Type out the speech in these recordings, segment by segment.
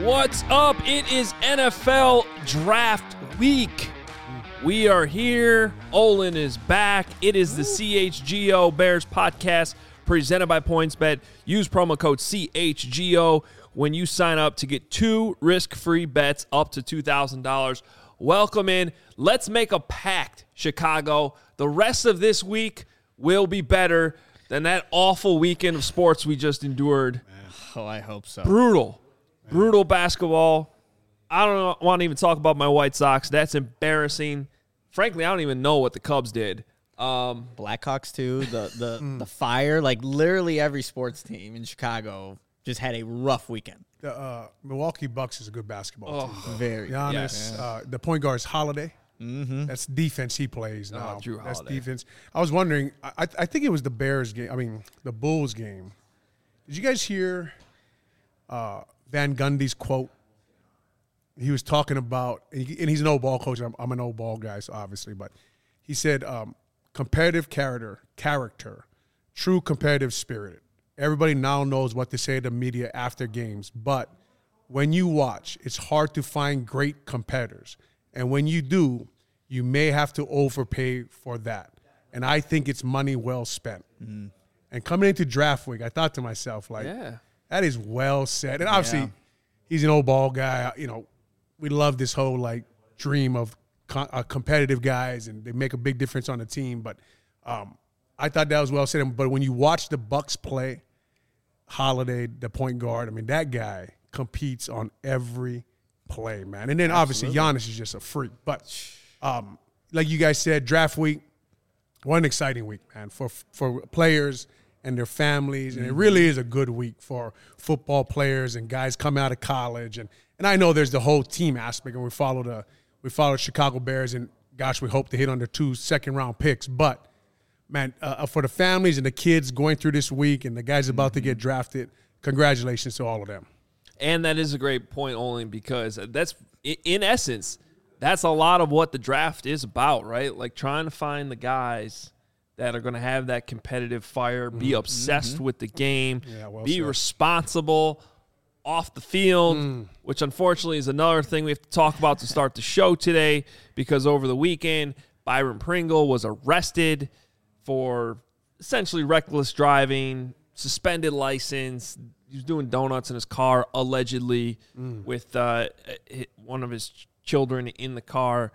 What's up? It is NFL Draft Week. We are here. Olin is back. It is the CHGO Bears podcast presented by PointsBet. Use promo code CHGO when you sign up to get 2 risk-free bets up to $2,000. Welcome in. Let's make a pact, Chicago. The rest of this week will be better than that awful weekend of sports we just endured. Oh, I hope so. Brutal basketball. I don't want to even talk about my White Sox. That's embarrassing. Frankly, I don't even know what the Cubs did. Blackhawks too. The Fire. Like literally every sports team in Chicago just had a rough weekend. The Milwaukee Bucks is a good basketball team. Very. Giannis, the point guard is Holiday. Mm-hmm. That's defense he plays now. Drew That's Holiday. defense. I was wondering, I think it was the Bears game. I mean, the Bulls game. Did you guys hear Van Gundy's quote? He was talking about, and he's an old ball coach. I'm an old ball guy, so obviously, but he said, competitive character, true competitive spirit. Everybody now knows what to say to the media after games, but when you watch, it's hard to find great competitors. And when you do, you may have to overpay for that. And I think it's money well spent. Mm-hmm. And coming into draft week, I thought to myself, that is well said. And obviously, he's an old ball guy. You know, we love this whole, dream of competitive guys, and they make a big difference on the team. But I thought that was well said. But when you watch the Bucks play, Holiday, the point guard, I mean, that guy competes on every play, man. And then obviously Giannis is just a freak. But like you guys said, draft week, what an exciting week, man, for players and their families. And it really is a good week for football players and guys coming out of college. And I know there's the whole team aspect, and we followed Chicago Bears, and gosh, we hope to hit on their 2 second-round picks. But, man, for the families and the kids going through this week and the guys about to get drafted, congratulations to all of them. And that is a great point, Olin, because that's, in essence, that's a lot of what the draft is about, right? Like trying to find the guys that are going to have that competitive fire, be obsessed with the game, be responsible off the field, which unfortunately is another thing we have to talk about to start the show today, because over the weekend, Byron Pringle was arrested for essentially reckless driving, suspended license. He was doing donuts in his car, allegedly, with one of his children in the car.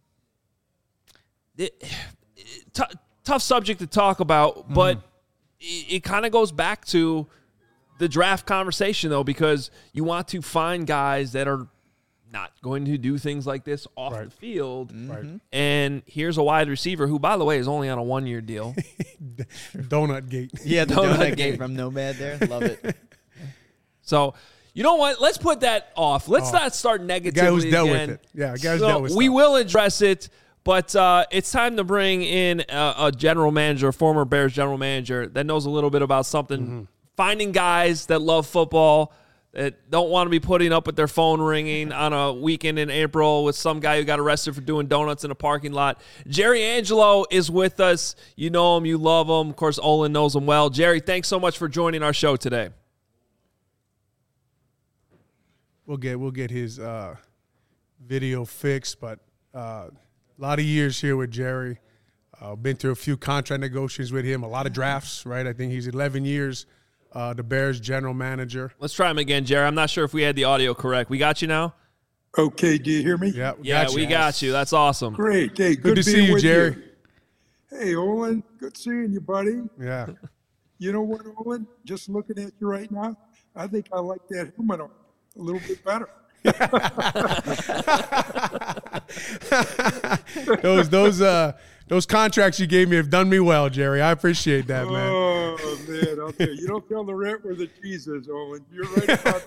Tough subject to talk about, but it kind of goes back to the draft conversation, though, because you want to find guys that are not going to do things like this off the field. Right. And here's a wide receiver who, by the way, is only on a 1-year deal. Donut Gate. Yeah, the Donut Gate from Nomad there. Love it. So, you know what? Let's put that off. Let's not start negatively The guy who's dealt again. with it. Yeah, the guy who's dealt with we stuff. will address it, but it's time to bring in a general manager, a former Bears general manager that knows a little bit about something. Finding guys that love football, that don't want to be putting up with their phone ringing on a weekend in April with some guy who got arrested for doing donuts in a parking lot. Jerry Angelo is with us. You know him. You love him. Of course, Olin knows him well. Jerry, thanks so much for joining our show today. We'll get his video fixed, but a lot of years here with Jerry. Been through a few contract negotiations with him, a lot of drafts, right? I think he's 11 years the Bears general manager. Let's try him again, Jerry. I'm not sure if we had the audio correct. We got you now? Okay, do you hear me? Yeah, we got you. That's awesome. Great. Hey, Good to see being you, with Jerry. Hey, Olin, good seeing you, buddy. Yeah. You know what, Olin? Just looking at you right now, I think I like that helmet on a little bit better. Those contracts you gave me have done me well, Jerry. I appreciate that, man. Oh, man, I'll tell you. You don't tell the rent where the cheese is, Olin. You're right about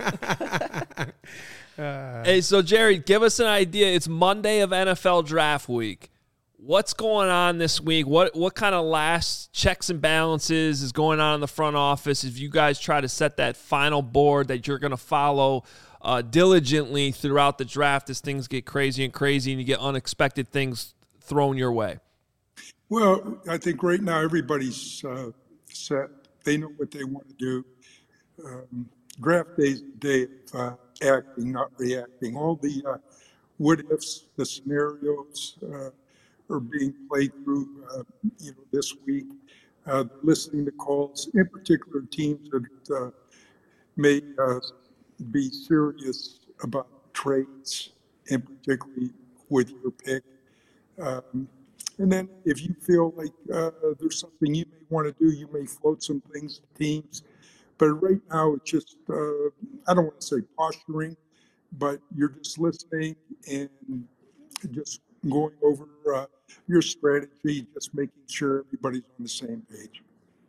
that. Hey, so Jerry, give us an idea. It's Monday of NFL Draft Week. What's going on this week? What kind of last checks and balances is going on in the front office as you guys try to set that final board that you're going to follow diligently throughout the draft as things get crazy and you get unexpected things thrown your way? Well, I think right now everybody's set. They know what they want to do. Draft day acting, not reacting. All the what ifs, the scenarios are being played through, this week. Listening to calls, in particular teams that may be serious about trades, and particularly with your pick. And then if you feel like there's something you may want to do, you may float some things to teams. But right now, it's just, I don't want to say posturing, but you're just listening and just going over your strategy, just making sure everybody's on the same page.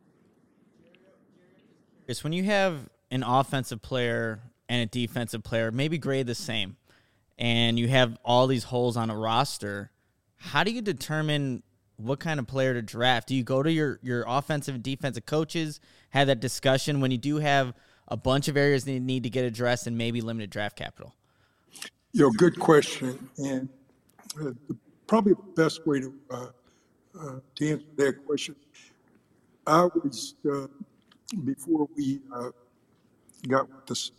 Chris, when you have an offensive player and a defensive player, maybe grade the same, and you have all these holes on a roster, how do you determine what kind of player to draft? Do you go to your offensive and defensive coaches, have that discussion when you do have a bunch of areas that need to get addressed and maybe limited draft capital? Good question. And probably the best way to answer that question, I always, before we got with this,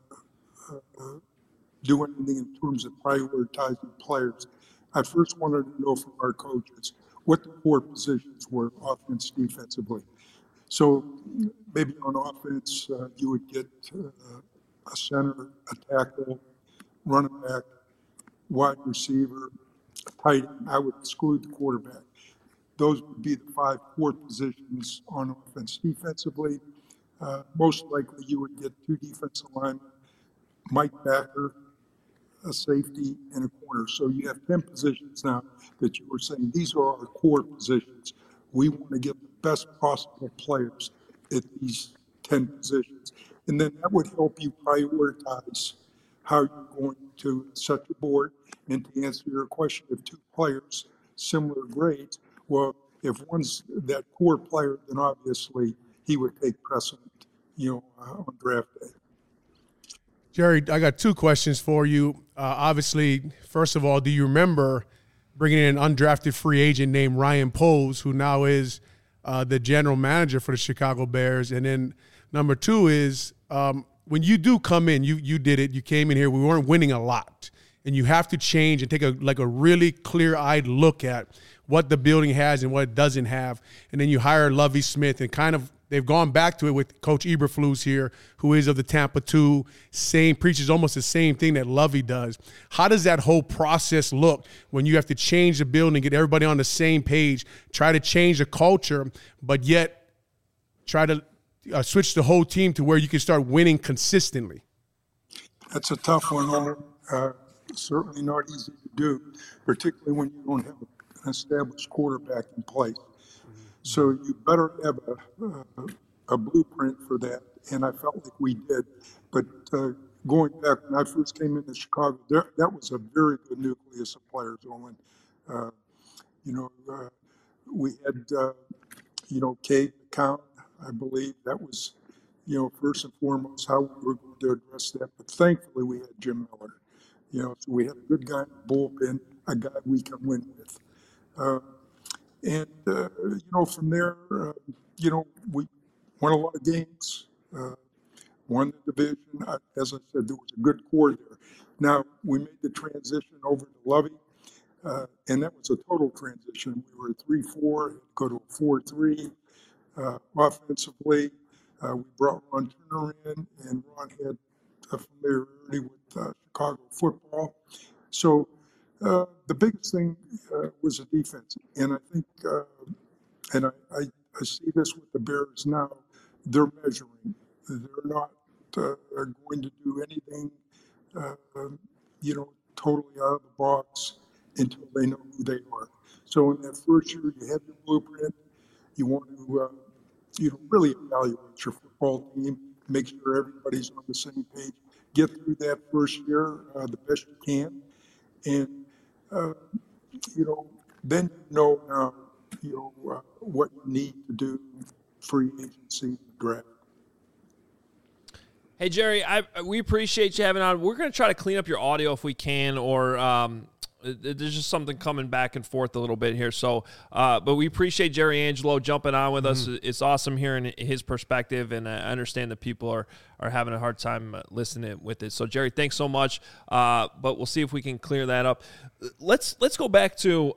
do anything in terms of prioritizing players, I first wanted to know from our coaches what the core positions were, offense, defensively. So maybe on offense, you would get a center, a tackle, running back, wide receiver, tight end. I would exclude the quarterback. Those would be the 5 core positions on offense. Defensively, most likely you would get 2 defensive linemen, Mike Backer, a safety, and a corner. So you have 10 positions now that you were saying these are our core positions. We want to get the best possible players at these 10 positions. And then that would help you prioritize how you're going to set your board. And to answer your question, if 2 players, similar grades, well, if one's that core player, then obviously he would take precedent, on draft day. Jerry, I got 2 questions for you. Obviously, first of all, do you remember bringing in an undrafted free agent named Ryan Poles, who now is the general manager for the Chicago Bears? And then number 2 is when you do come in, you did it. You came in here. We weren't winning a lot. And you have to change and take a really clear-eyed look at what the building has and what it doesn't have. And then you hire Lovie Smith, and kind of they've gone back to it with Coach Eberflus here, who is of the Tampa 2, preaches almost the same thing that Lovie does. How does that whole process look when you have to change the building, get everybody on the same page, try to change the culture, but yet try to switch the whole team to where you can start winning consistently? That's a tough one, Homer. Certainly not easy to do, particularly when you don't have an established quarterback in place. So you better have a blueprint for that, and I felt like we did. But going back when I first came into Chicago, that was a very good nucleus of players, Owen. We had, Cade McCown, I believe. That was, first and foremost how we were going to address that. But thankfully, we had Jim Miller. So we had a good guy in the bullpen, a guy we can win with. From there, we won a lot of games, won the division. As I said, there was a good core there. Now, we made the transition over to Lovie, and that was a total transition. We were at 3-4, go to a 4-3. Offensively, we brought Ron Turner in, and Ron had a familiarity with Chicago football. So the biggest thing was the defense. And I think, and I see this with the Bears now, they're measuring. They're not going to do anything, totally out of the box until they know who they are. So in that first year, you have your blueprint. You want to, really evaluate your football team, make sure everybody's on the same page, get through that first year the best you can. And, then now, what you need to do free agency and draft. Hey, Jerry, we appreciate you having on. We're going to try to clean up your audio if we can, or There's just something coming back and forth a little bit here. So, but we appreciate Jerry Angelo jumping on with us. It's awesome hearing his perspective, and I understand that people are having a hard time listening with it. So, Jerry, thanks so much. But we'll see if we can clear that up. Let's go back to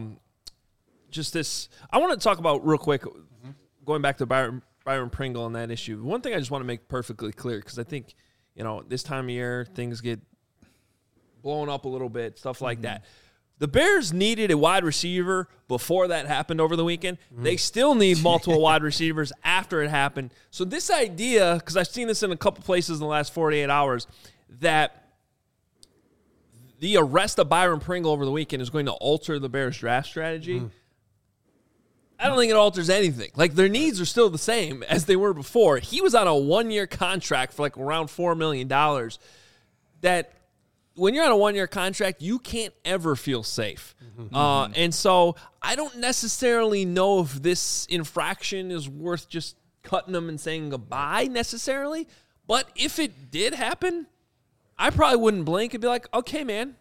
just this. I want to talk about real quick, going back to Byron Pringle and that issue. One thing I just want to make perfectly clear, because I think, this time of year, things get blown up a little bit, stuff like that. The Bears needed a wide receiver before that happened over the weekend. They still need multiple wide receivers after it happened. So this idea, because I've seen this in a couple places in the last 48 hours, that the arrest of Byron Pringle over the weekend is going to alter the Bears draft strategy. I don't think it alters anything. Like, their needs are still the same as they were before. He was on a 1-year contract for like around $4 million. That when you're on a 1-year contract, you can't ever feel safe. And so I don't necessarily know if this infraction is worth just cutting them and saying goodbye necessarily. But if it did happen, I probably wouldn't blink and be like, okay, man,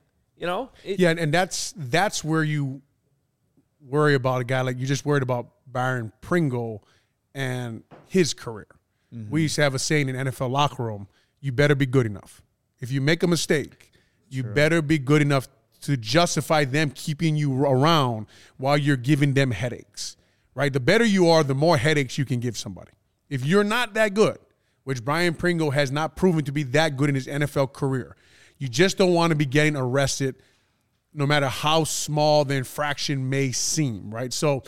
and that's where you worry about a guy like you just worried about Byron Pringle and his career. We used to have a saying in NFL locker room, you better be good enough. If you make a mistake, you better be good enough to justify them keeping you around while you're giving them headaches, right? The better you are, the more headaches you can give somebody. If you're not that good, which Byron Pringle has not proven to be that good in his NFL career, you just don't want to be getting arrested no matter how small the infraction may seem, right? So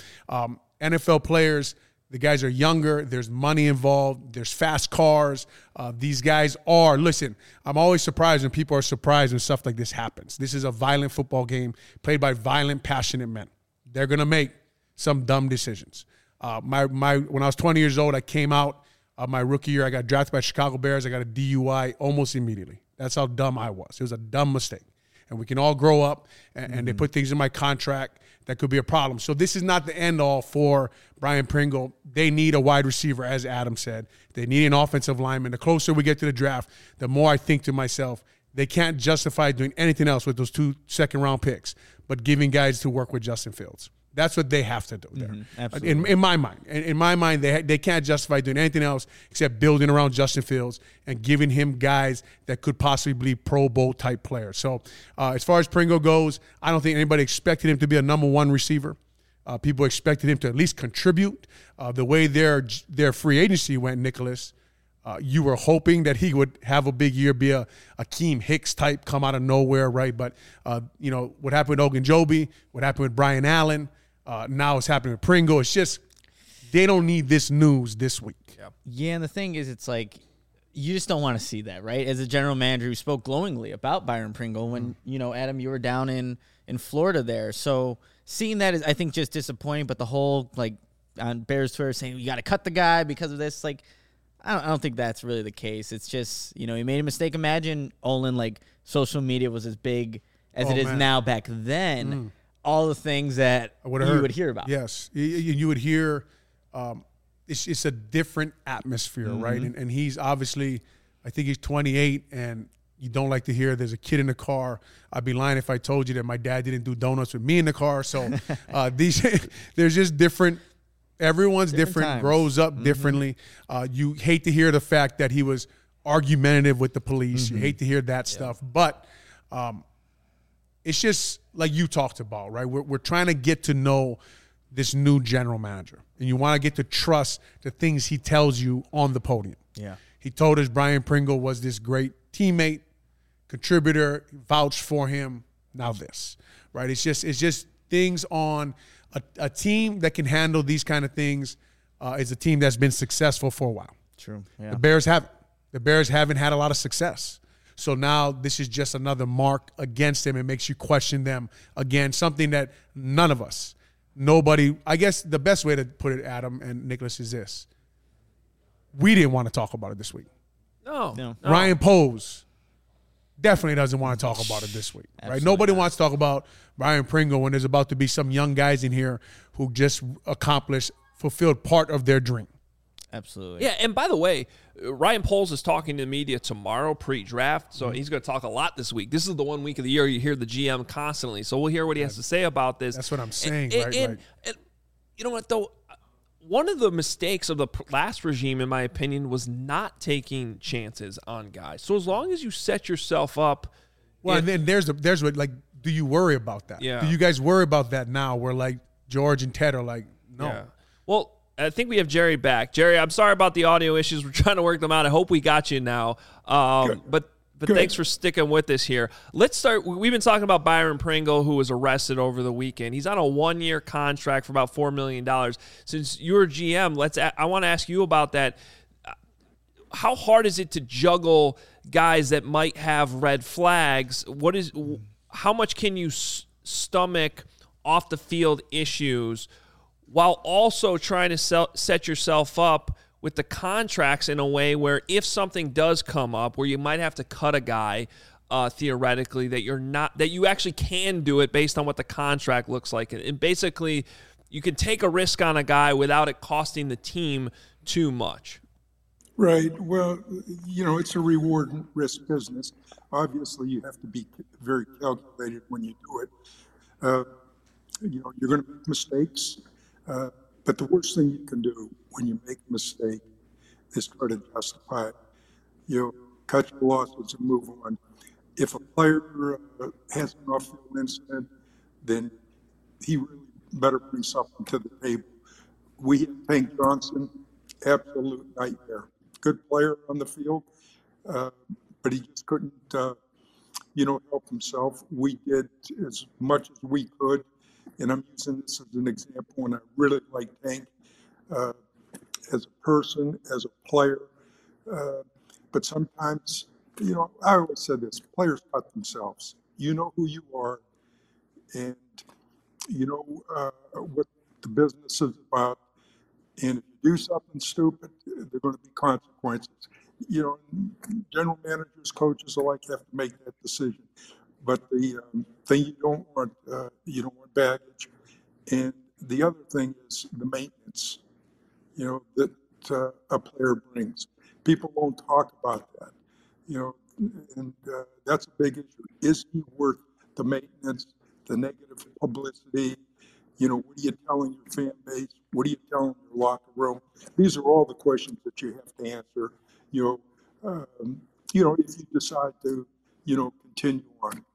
NFL players, the guys are younger. There's money involved. There's fast cars. These guys are, listen, I'm always surprised when people are surprised when stuff like this happens. This is a violent football game played by violent, passionate men. They're going to make some dumb decisions. When I was 20 years old, I came out my rookie year. I got drafted by Chicago Bears. I got a DUI almost immediately. That's how dumb I was. It was a dumb mistake. And we can all grow up, and they put things in my contract that could be a problem. So this is not the end-all for Byron Pringle. They need a wide receiver, as Adam said. They need an offensive lineman. The closer we get to the draft, the more I think to myself, they can't justify doing anything else with those 2 second-round picks but giving guys to work with Justin Fields. That's what they have to do there. Absolutely. In my mind. In my mind, they can't justify doing anything else except building around Justin Fields and giving him guys that could possibly be Pro Bowl type players. So as far as Pringle goes, I don't think anybody expected him to be a number 1 receiver. People expected him to at least contribute. The way their free agency went, Nicholas, you were hoping that he would have a big year, be a Akeem Hicks type, come out of nowhere, right? But, what happened with Ogunjobi, what happened with Brian Allen, now it's happening with Pringle. It's just they don't need this news this week. Yeah, and the thing is, it's like you just don't want to see that, right? As a general manager who spoke glowingly about Byron Pringle when, Adam, you were down in Florida there. So seeing that is, I think, just disappointing. But the whole, on Bears Twitter saying you got to cut the guy because of this, I don't think that's really the case. It's just, he made a mistake. Imagine, Olin, social media was as big as it is now back then. All the things that you would hear about. Yes. You would hear it's a different atmosphere, right? And he's obviously, I think he's 28, and you don't like to hear there's a kid in the car. I'd be lying if I told you that my dad didn't do donuts with me in the car. So there's just different. Everyone's different, grows up differently. You hate to hear the fact that he was argumentative with the police. You hate to hear that stuff. But it's just like you talked about, right? We're trying to get to know this new general manager, and you want to get to trust the things he tells you on the podium. Yeah. He told us Byron Pringle was this great teammate, contributor, vouched for him. Now this, right? It's just things on a team that can handle these kind of things is a team that's been successful for a while. True. Yeah. The Bears haven't. The Bears haven't had a lot of success. So now this is just another mark against them. It makes you question them again, something that nobody, I guess the best way to put it, Adam and Nicholas, is this. We didn't want to talk about it this week. No. Ryan Pose definitely doesn't want to talk about it this week. Right? Nobody wants to talk about Byron Pringle when there's about to be some young guys in here who just fulfilled part of their dream. Absolutely. Yeah, and by the way, Ryan Poles is talking to the media tomorrow pre-draft, so he's going to talk a lot this week. This is the 1 week of the year you hear the GM constantly, so we'll hear what he has to say about this. That's what I'm saying, right? And you know what, though? One of the mistakes of the last regime, in my opinion, was not taking chances on guys. So as long as you set yourself up. Well, and then there's what, like, do you worry about that? Yeah. Do you guys worry about that now where, like, George and Ted are like, no. Yeah. Well, I think we have Jerry back. Jerry, I'm sorry about the audio issues. We're trying to work them out. I hope we got you now. But thanks for sticking with us here. Let's start. We've been talking about Byron Pringle, who was arrested over the weekend. He's on a 1-year contract for about $4 million. Since you're GM, I want to ask you about that. How hard is it to juggle guys that might have red flags? How much can you stomach off the field issues while also trying to set yourself up with the contracts in a way where if something does come up where you might have to cut a guy theoretically that you actually can do it based on what the contract looks like, and basically you can take a risk on a guy without it costing the team too much. Right. Well, it's a reward and risk business. Obviously, you have to be very calculated when you do it. You're going to make mistakes. But the worst thing you can do when you make a mistake is try to justify it. Cut your losses and move on. If a player has an off-field incident, then he really better bring something to the table. We had Hank Johnson, absolute nightmare. Good player on the field, but he just couldn't, help himself. We did as much as we could. And I'm using this as an example, and I really like Hank as a person, as a player. But sometimes, I always said this, players cut themselves. You know who you are, and you know what the business is about. And if you do something stupid, there are going to be consequences. General managers, coaches alike have to make that decision. But the thing you don't want baggage. And the other thing is the maintenance, that a player brings. People don't talk about that, and that's a big issue. Is he worth the maintenance, the negative publicity? What are you telling your fan base? What are you telling your locker room? These are all the questions that you have to answer, if you decide to, continue on.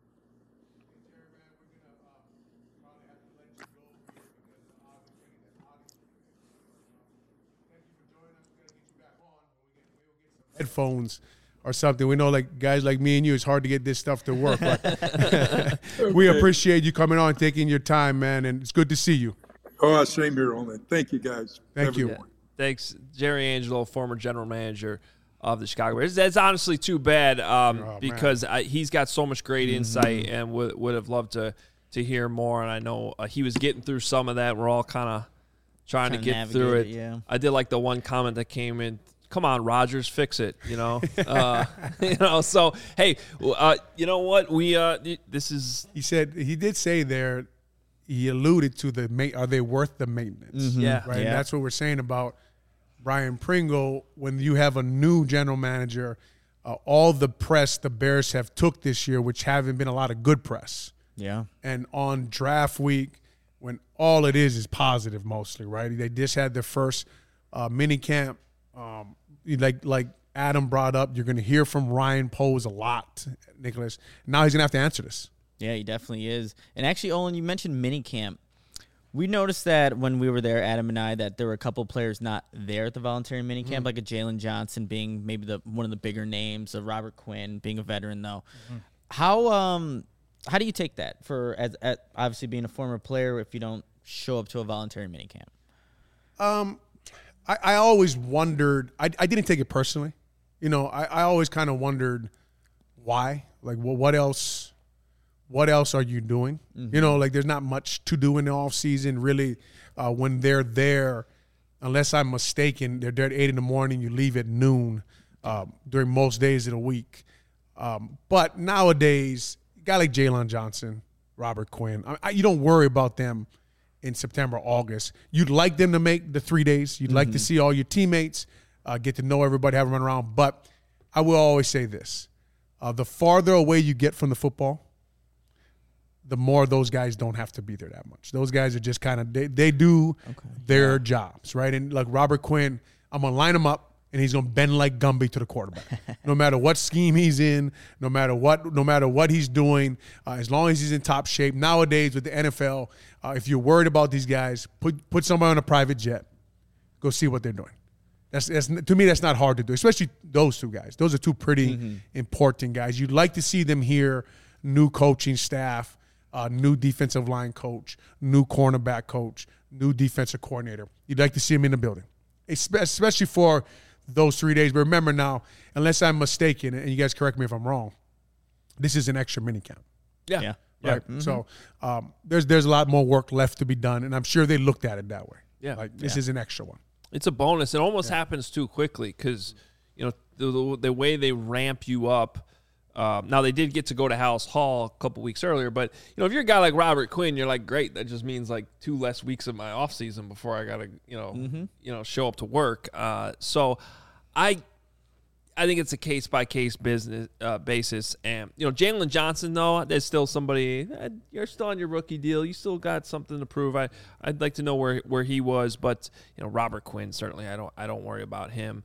Headphones or something. We know, like, guys like me and you, it's hard to get this stuff to work. But we appreciate you coming on, taking your time, man, and it's good to see you. Oh, same here, Olin. Thank you, guys. Thank you. Yeah. Thanks, Jerry Angelo, former general manager of the Chicago Bears. That's honestly too bad because he's got so much great insight and would have loved to hear more. And I know he was getting through some of that. We're all kind of trying to get through it. Yeah. I did like the one comment that came in. Come on, Rodgers, fix it. So hey, you know what? This is. He did say there. He alluded to are they worth the maintenance? Mm-hmm. Yeah, right. Yeah. And that's what we're saying about Brian Pringle. When you have a new general manager, all the press the Bears have took this year, which haven't been a lot of good press. Yeah. And on draft week, when all it is positive mostly, right? They just had their first mini camp. Like Adam brought up, you're going to hear from Ryan Poles a lot, Nicholas. Now he's going to have to answer this. Yeah, he definitely is. And actually, Olin, you mentioned minicamp. We noticed that when we were there, Adam and I, that there were a couple players not there at the voluntary minicamp, like a Jalen Johnson being maybe one of the bigger names, a Robert Quinn being a veteran, though. Mm-hmm. How do you take that for as obviously being a former player if you don't show up to a voluntary minicamp? I always wondered. I didn't take it personally. I always kind of wondered why. Like, well, what else are you doing? Mm-hmm. Like, there's not much to do in the off season, really. When they're there, unless I'm mistaken, they're there at 8 a.m. You leave at noon during most days of the week. But nowadays, a guy like Jalen Johnson, Robert Quinn, you don't worry about them in September, August. You'd like them to make the 3 days. You'd like to see all your teammates, get to know everybody, have them run around. But I will always say this. The farther away you get from the football, the more those guys don't have to be there that much. Those guys are just kind of they do their jobs, right? And like Robert Quinn, I'm gonna line him up, and he's gonna bend like Gumby to the quarterback. No matter what scheme he's in, no matter what he's doing, as long as he's in top shape. Nowadays with the NFL, if you're worried about these guys, put somebody on a private jet, go see what they're doing. That's to me, that's not hard to do, especially those two guys. Those are two pretty important guys. You'd like to see them here, new coaching staff. New defensive line coach, new cornerback coach, new defensive coordinator. You'd like to see him in the building, especially for those 3 days. But remember now, unless I'm mistaken, and you guys correct me if I'm wrong, this is an extra minicamp. Yeah. Right? So there's a lot more work left to be done, and I'm sure they looked at it that way. Yeah. Like, this is an extra one. It's a bonus. It almost happens too quickly because, the way they ramp you up. Now, they did get to go to House Hall a couple weeks earlier, but, if you're a guy like Robert Quinn, you're like, great, that just means like 2 less weeks of my offseason before I got to, show up to work. So I think it's a case-by-case business basis. And, Jalen Johnson, though, there's still somebody, you're still on your rookie deal. You still got something to prove. I'd like to know where he was, but, Robert Quinn, certainly I don't worry about him.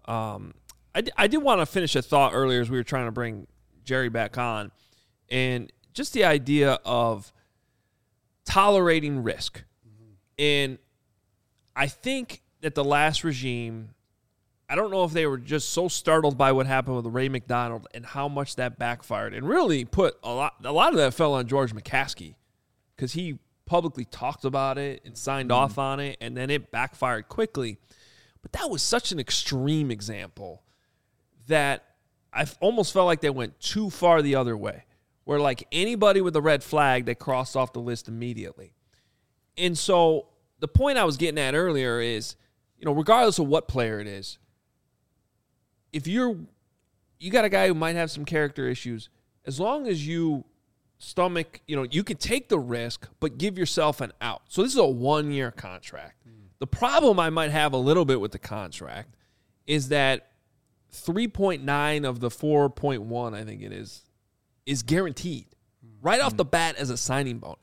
I did want to finish a thought earlier as we were trying to bring Jerry back on, and just the idea of tolerating risk. And I think that the last regime, I don't know if they were just so startled by what happened with Ray McDonald and how much that backfired, and really put a lot of that fell on George McCaskey because he publicly talked about it and signed off on it, and then it backfired quickly. But that was such an extreme example that I almost felt like they went too far the other way, where like anybody with a red flag, they crossed off the list immediately. And so the point I was getting at earlier is, regardless of what player it is, if you got a guy who might have some character issues, as long as you stomach, you can take the risk, but give yourself an out. So this is a 1-year contract. The problem I might have a little bit with the contract is that 3.9 of the 4.1, I think it is guaranteed right off the bat as a signing bonus.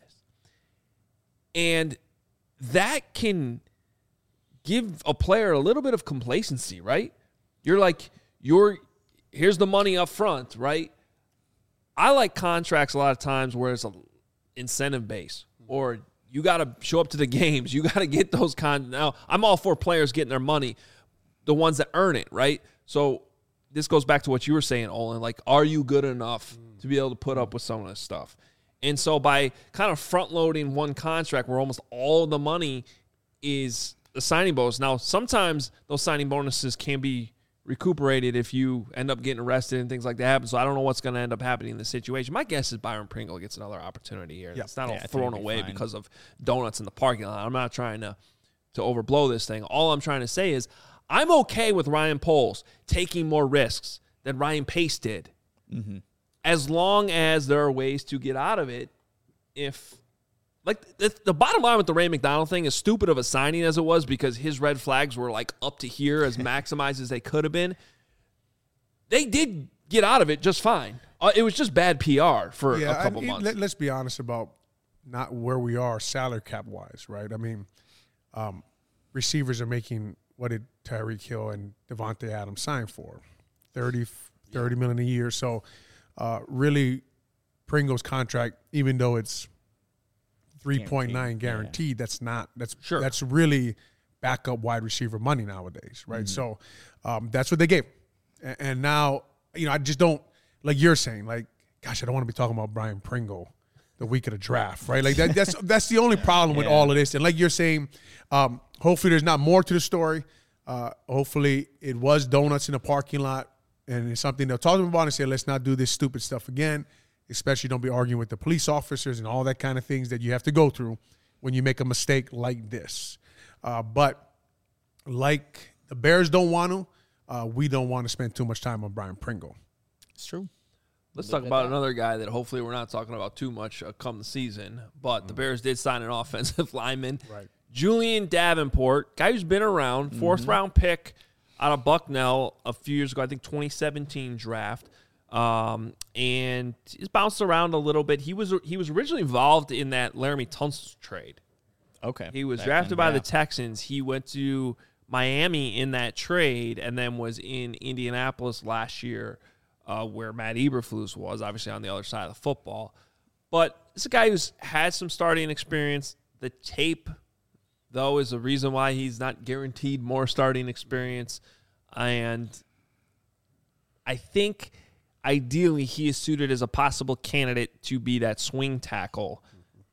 And that can give a player a little bit of complacency, right? You're like, here's the money up front, right? I like contracts a lot of times where it's an incentive base, or you got to show up to the games. You got to get those Now, I'm all for players getting their money, the ones that earn it, right? So this goes back to what you were saying, Olin. Like, are you good enough to be able to put up with some of this stuff? And so by kind of front-loading one contract where almost all the money is the signing bonus. Now, sometimes those signing bonuses can be recuperated if you end up getting arrested and things like that happen. So I don't know what's going to end up happening in this situation. My guess is Byron Pringle gets another opportunity here. It's not all thrown away because of donuts in the parking lot. I'm not trying to overblow this thing. All I'm trying to say is I'm okay with Ryan Poles taking more risks than Ryan Pace did, as long as there are ways to get out of it. If, like, the bottom line with the Ray McDonald thing, as stupid of a signing as it was, because his red flags were like up to here as maximized as they could have been, they did get out of it just fine. It was just bad PR for a couple months. Let's be honest about not where we are salary cap wise, right? I mean, receivers are making, what did Tyreek Hill and Devontae Adams sign for? $30 million a year. So really, Pringle's contract, even though it's 3.9 guaranteed, that's really backup wide receiver money nowadays, right? So that's what they gave. And now, I just don't, like you're saying, like, gosh, I don't want to be talking about Brian Pringle the week of the draft, right? Like that's the only problem with all of this. And like you're saying, hopefully there's not more to the story. Hopefully it was donuts in the parking lot, and it's something they'll talk to them about and say, let's not do this stupid stuff again. Especially don't be arguing with the police officers and all that kind of things that you have to go through when you make a mistake like this. But like the Bears don't want to, we don't want to spend too much time on Brian Pringle. It's true. Let's talk about another guy that hopefully we're not talking about too much come the season. But the Bears did sign an offensive lineman. Right. Julian Davenport, guy who's been around, fourth-round pick out of Bucknell a few years ago, I think 2017 draft. And he's bounced around a little bit. He was originally involved in that Laramie Tunsil trade. Okay. He was drafted by the Texans. He went to Miami in that trade and then was in Indianapolis last year where Matt Eberflus was, obviously on the other side of the football. But it's a guy who's had some starting experience. The tape, though, is the reason why he's not guaranteed more starting experience. And I think ideally he is suited as a possible candidate to be that swing tackle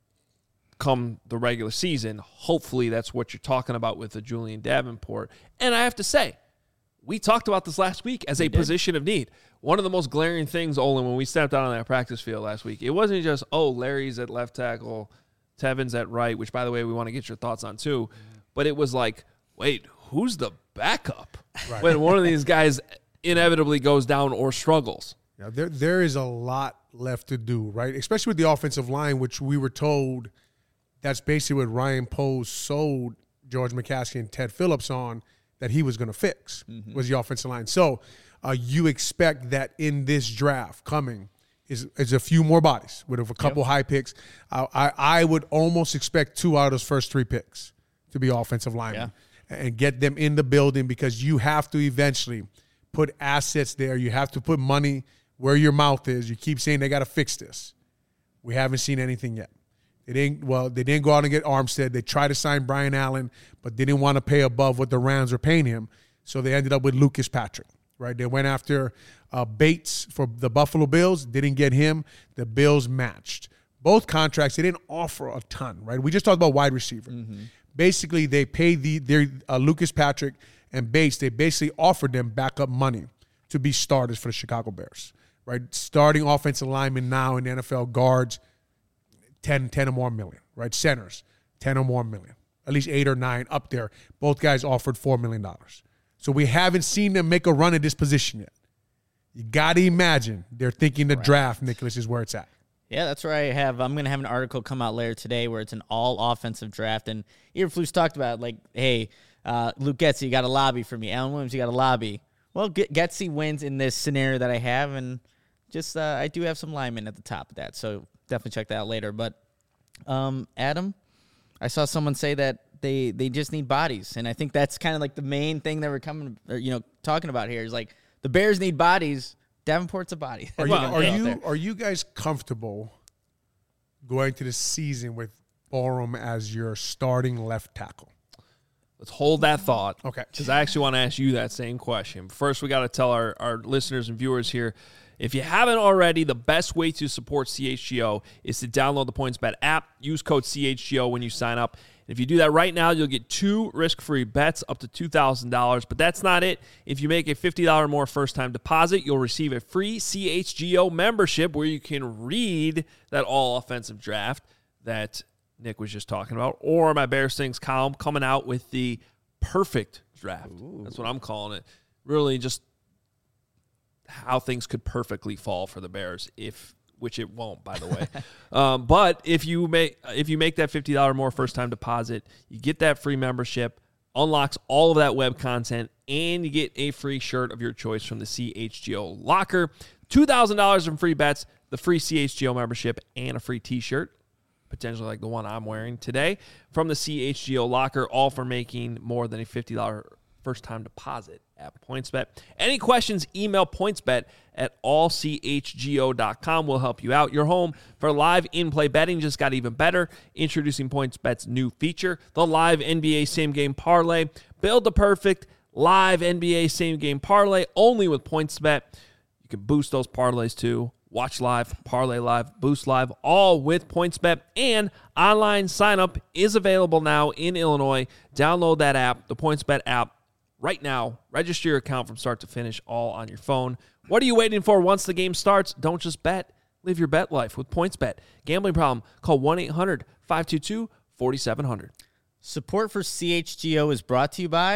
come the regular season. Hopefully that's what you're talking about with the Julian Davenport. And I have to say, we talked about this last week as a position of need. One of the most glaring things, Olin, when we stepped out on that practice field last week, it wasn't just, Larry's at left tackle, Tevin's at right, which, by the way, we want to get your thoughts on too. But it was like, wait, who's the backup when one of these guys inevitably goes down or struggles? Yeah, there is a lot left to do, right? Especially with the offensive line, which we were told that's basically what Ryan Poles sold George McCaskey and Ted Phillips on, that he was going to fix, was the offensive line. So you expect that in this draft coming is a few more bodies with a couple high picks. I would almost expect 2 out of those first 3 picks to be offensive linemen and get them in the building, because you have to eventually put assets there. You have to put money where your mouth is. You keep saying they got to fix this. We haven't seen anything yet. They didn't go out and get Armstead. They tried to sign Brian Allen, but they didn't want to pay above what the Rams were paying him. So they ended up with Lucas Patrick, right? They went after Bates for the Buffalo Bills. Didn't get him. The Bills matched. Both contracts, they didn't offer a ton, right? We just talked about wide receiver. Basically, they paid their Lucas Patrick and Bates. They basically offered them backup money to be starters for the Chicago Bears, right? Starting offensive linemen now in the NFL, guards, 10 or more million, right? Centers, 10 or more million, at least 8 or 9 up there. Both guys offered $4 million. So we haven't seen them make a run at this position yet. You got to imagine they're thinking the draft, Nicholas, is where it's at. Yeah, that's where I'm going to have an article come out later today where it's an all-offensive draft. And Eberflus talked about, like, hey, Luke Getsy, you got to lobby for me. Alan Williams, you got to lobby. Well, Getsy wins in this scenario that I have, and just I do have some linemen at the top of that. So definitely check that out later. But, Adam, I saw someone say that they just need bodies. And I think that's kind of like the main thing that we're talking about here is, like, the Bears need bodies. Davenport's a body. Are you guys comfortable going to the season with Borom as your starting left tackle? Let's hold that thought. Okay. Because I actually want to ask you that same question. First, we got to tell our listeners and viewers here, if you haven't already, the best way to support CHGO is to download the PointsBet app. Use code CHGO when you sign up. If you do that right now, you'll get 2 risk-free bets up to $2,000. But that's not it. If you make a $50 or more first-time deposit, you'll receive a free CHGO membership where you can read that all-offensive draft that Nick was just talking about, or my Bears Things column coming out with the perfect draft. Ooh. That's what I'm calling it. Really just how things could perfectly fall for the Bears, which it won't, by the way. But if you make that $50 or more first-time deposit, you get that free membership, unlocks all of that web content, and you get a free shirt of your choice from the CHGO Locker. $2,000 in free bets, the free CHGO membership, and a free T-shirt, potentially like the one I'm wearing today, from the CHGO Locker, all for making more than a $50 first-time deposit at PointsBet. Any questions, email pointsbet@allchgo.com. We'll help you out. Your home for live in-play betting just got even better. Introducing PointsBet's new feature, the live NBA same-game parlay. Build the perfect live NBA same-game parlay only with PointsBet. You can boost those parlays too. Watch live, parlay live, boost live, all with PointsBet. And online sign-up is available now in Illinois. Download that app, the PointsBet app, right now. Register your account from start to finish, all on your phone. What are you waiting for? Once the game starts, don't just bet. Live your bet life with PointsBet. Gambling problem? Call 1-800-522-4700. Support for CHGO is brought to you by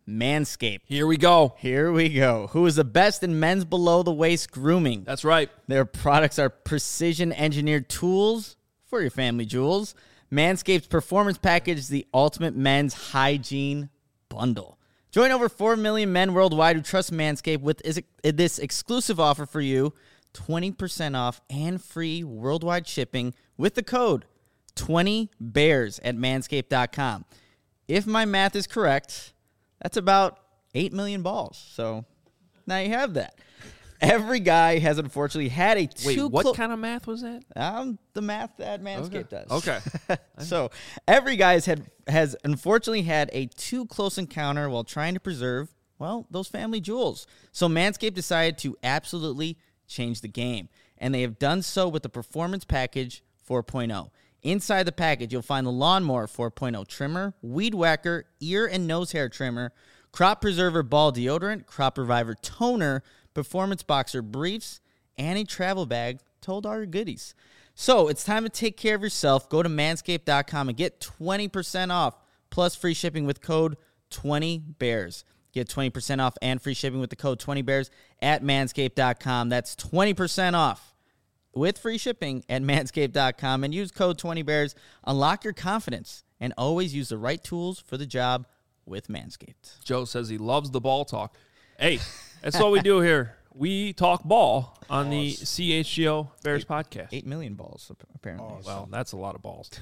Manscaped. Here we go. Here we go. Who is the best in men's below-the-waist grooming? That's right. Their products are precision-engineered tools for your family jewels. Manscaped's Performance Package is the ultimate men's hygiene bundle. Join over 4 million men worldwide who trust Manscaped with this exclusive offer for you. 20% off and free worldwide shipping with the code 20bears at manscaped.com. If my math is correct, that's about 8 million balls. So now you have that. Every guy has unfortunately had a too Wait, what kind of math was that? the math that Manscaped does. Okay. So every guy has unfortunately had a too close encounter while trying to preserve, well, those family jewels. So Manscaped decided to absolutely change the game, and they have done so with the Performance Package 4.0. Inside the package, you'll find the Lawnmower 4.0 trimmer, Weed Whacker, ear and nose hair trimmer, Crop Preserver ball deodorant, Crop Reviver toner, Performance Boxer briefs, and a travel bag told all your goodies. So it's time to take care of yourself. Go to manscaped.com and get 20% off plus free shipping with code 20bears. Get 20% off and free shipping with the code 20bears at manscaped.com. That's 20% off with free shipping at manscaped.com, and use code 20bears. Unlock your confidence and always use the right tools for the job with Manscaped. Joe says he loves the ball talk. Hey, that's what we do here. We talk ball on the CHGO Bears podcast. 8 million balls, apparently. Well, that's a lot of balls.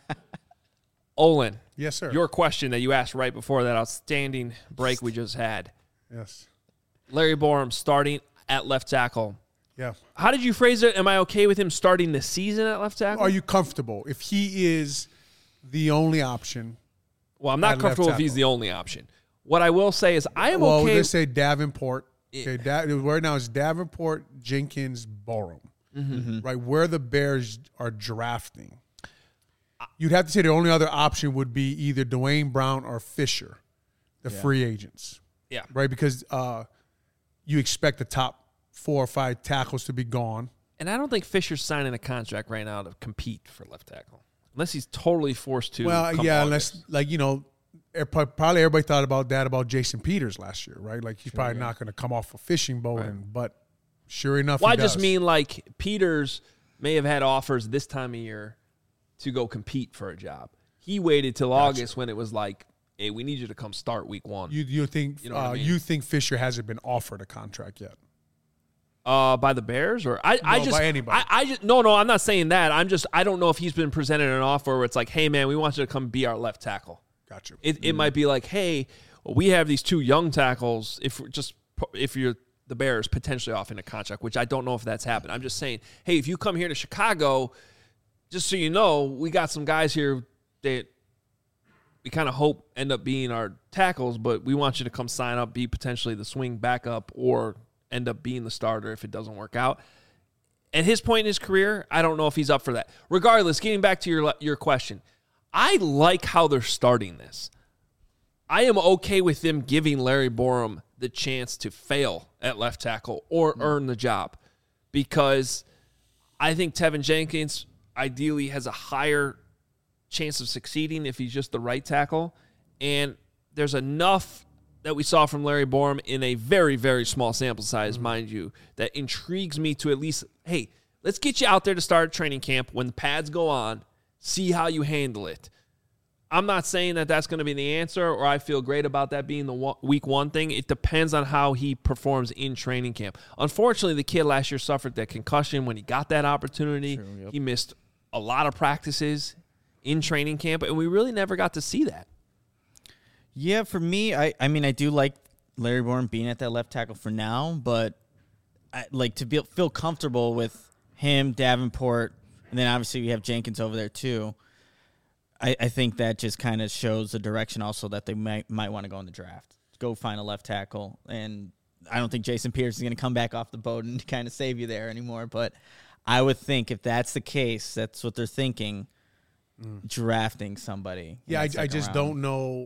Olin. Yes, sir. Your question that you asked right before that outstanding break we just had. Yes. Larry Borum starting at left tackle. Yeah. How did you phrase it? Am I okay with him starting the season at left tackle? Are you comfortable if he is the only option? Well, I'm not at comfortable left if he's tackle? the only option. What I will say is I am Well, okay. let's say Davenport. Okay, right now it's Davenport, Jenkins, Borum. Mm-hmm. Right, where the Bears are drafting. You'd have to say the only other option would be either Dwayne Brown or Fisher, the free agents. Yeah. Right, because you expect the top 4 or 5 tackles to be gone. And I don't think Fisher's signing a contract right now to compete for left tackle. Unless he's totally forced to. Well, come yeah, August. unless, probably everybody thought about that about Jason Peters last year, right? Like, he's probably not going to come off a fishing boat, but sure enough, Well, he I just does. mean like Peters may have had offers this time of year to go compete for a job. He waited till August when it was like, hey, we need you to come start week 1. You think You know what I mean? you think Fisher hasn't been offered a contract yet? By the Bears or I just by anybody. I just no, I'm not saying that. I don't know if he's been presented an offer where it's like, hey man, we want you to come be our left tackle. Got you. It might be like, hey, we have these 2 young tackles. If you're the Bears potentially offering a contract, which I don't know if that's happened. I'm just saying, hey, if you come here to Chicago, just so you know, we got some guys here that we kind of hope end up being our tackles, but we want you to come sign up, be potentially the swing backup, or end up being the starter if it doesn't work out. At his point in his career, I don't know if he's up for that. Regardless, getting back to your question, I like how they're starting this. I am okay with them giving Larry Borum the chance to fail at left tackle or earn the job, because I think Tevin Jenkins ideally has a higher chance of succeeding if he's just the right tackle. And there's enough that we saw from Larry Borum in a very, very small sample size, mind you, that intrigues me to at least, hey, let's get you out there to start training camp. When the pads go on, see how you handle it. I'm not saying that that's going to be the answer, or I feel great about that being the week 1 thing. It depends on how he performs in training camp. Unfortunately, the kid last year suffered that concussion when he got that opportunity. True, yep. He missed a lot of practices in training camp, and we really never got to see that. Yeah, for me, I mean, I do like Larry Borum being at that left tackle for now, but I like to feel comfortable with him, Davenport, and then obviously we have Jenkins over there too. I think that just kind of shows the direction also that they might want to go in the draft. Go find a left tackle. And I don't think Jason Peters is going to come back off the boat and kind of save you there anymore. But I would think if that's the case, that's what they're thinking, drafting somebody. Yeah, I just don't know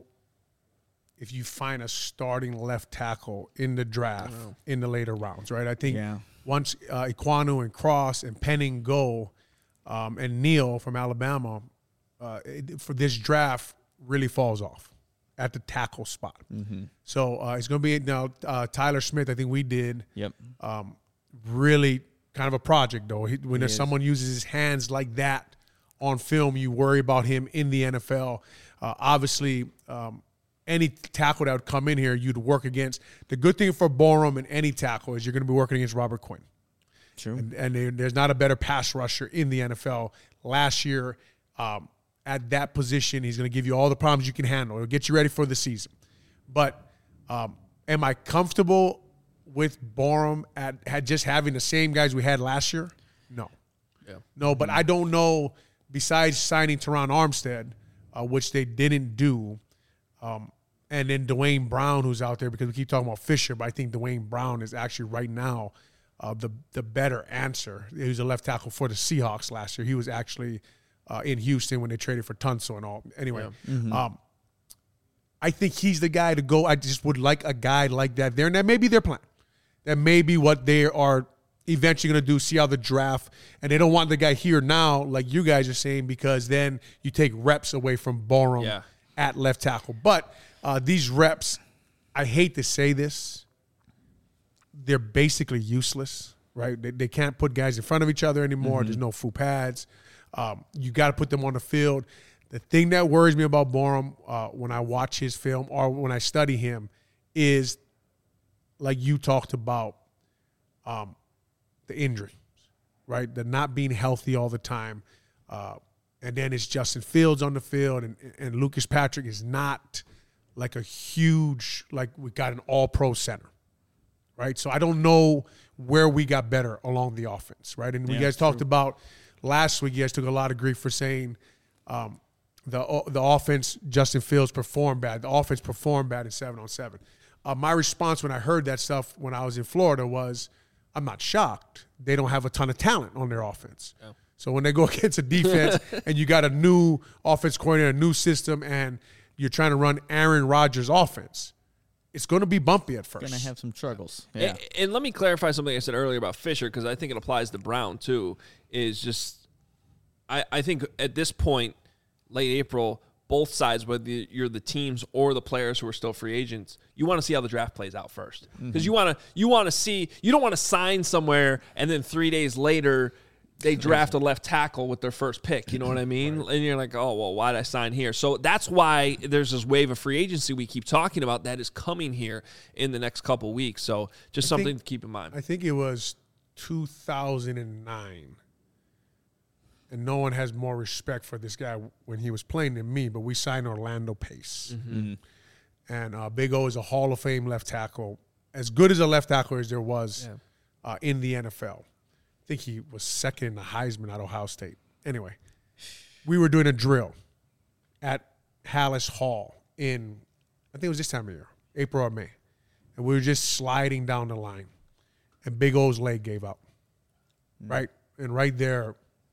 if you find a starting left tackle in the draft in the later rounds, right? I think once Iquanu and Cross and Penning go, and Neal from Alabama, for this draft really falls off. at the tackle spot. So it's going to be now Tyler Smith. I think we did. Yep. Really kind of a project, though. When there's someone uses his hands like that on film, you worry about him in the NFL. Obviously, any tackle that would come in here, you'd work against. The good thing for Borom and any tackle is you're going to be working against Robert Quinn. True. And there's not a better pass rusher in the NFL. Last year, at that position, he's going to give you all the problems you can handle. It'll get you ready for the season. But am I comfortable with Borom at just having the same guys we had last year? No. Yeah. No, but I don't know, besides signing Teron Armstead, which they didn't do, and then Dwayne Brown, who's out there, because we keep talking about Fisher, but I think Dwayne Brown is actually right now the better answer. He was a left tackle for the Seahawks last year. He was actually in Houston when they traded for Tunsil and all. Anyway, I think he's the guy to go. I just would like a guy like that there, and that may be their plan. That may be what they are eventually going to do, see how the draft, and they don't want the guy here now, like you guys are saying, because then you take reps away from Borom at left tackle. But these reps, I hate to say this, they're basically useless, right? They can't put guys in front of each other anymore. There's no full pads. You got to put them on the field. The thing that worries me about Borom when I watch his film or when I study him is, like you talked about, the injury, right? The not being healthy all the time. And then it's Justin Fields on the field, and Lucas Patrick is not like a huge, like we got an all-pro center, right? So I don't know where we got better along the offense, right? And you guys talked about last week, you guys took a lot of grief for saying the offense, Justin Fields performed bad. The offense performed bad in 7-on-7. My response when I heard that stuff when I was in Florida was, I'm not shocked. They don't have a ton of talent on their offense. Yeah. So when they go against a defense and you got a new offense coordinator, a new system, and you're trying to run Aaron Rodgers' offense, it's going to be bumpy at first. Going to have some struggles. Yeah. And let me clarify something I said earlier about Fisher, because I think it applies to Brown too, is just I think at this point, late April, both sides, whether you're the teams or the players who are still free agents, you want to see how the draft plays out first. Because you want to see, you don't want to sign somewhere and then 3 days later they draft a left tackle with their first pick. You know what I mean? Right. And you're like, oh, well, why did I sign here? So that's why there's this wave of free agency we keep talking about that is coming here in the next couple weeks. So just something to keep in mind. I think it was 2009. And no one has more respect for this guy when he was playing than me, but we signed Orlando Pace. And Big O is a Hall of Fame left tackle, as good as a left tackle as there was in the NFL. I think he was second in the Heisman at Ohio State. Anyway, we were doing a drill at Hallis Hall in, I think it was this time of year, April or May. And we were just sliding down the line. And Big O's leg gave out, right? And right there,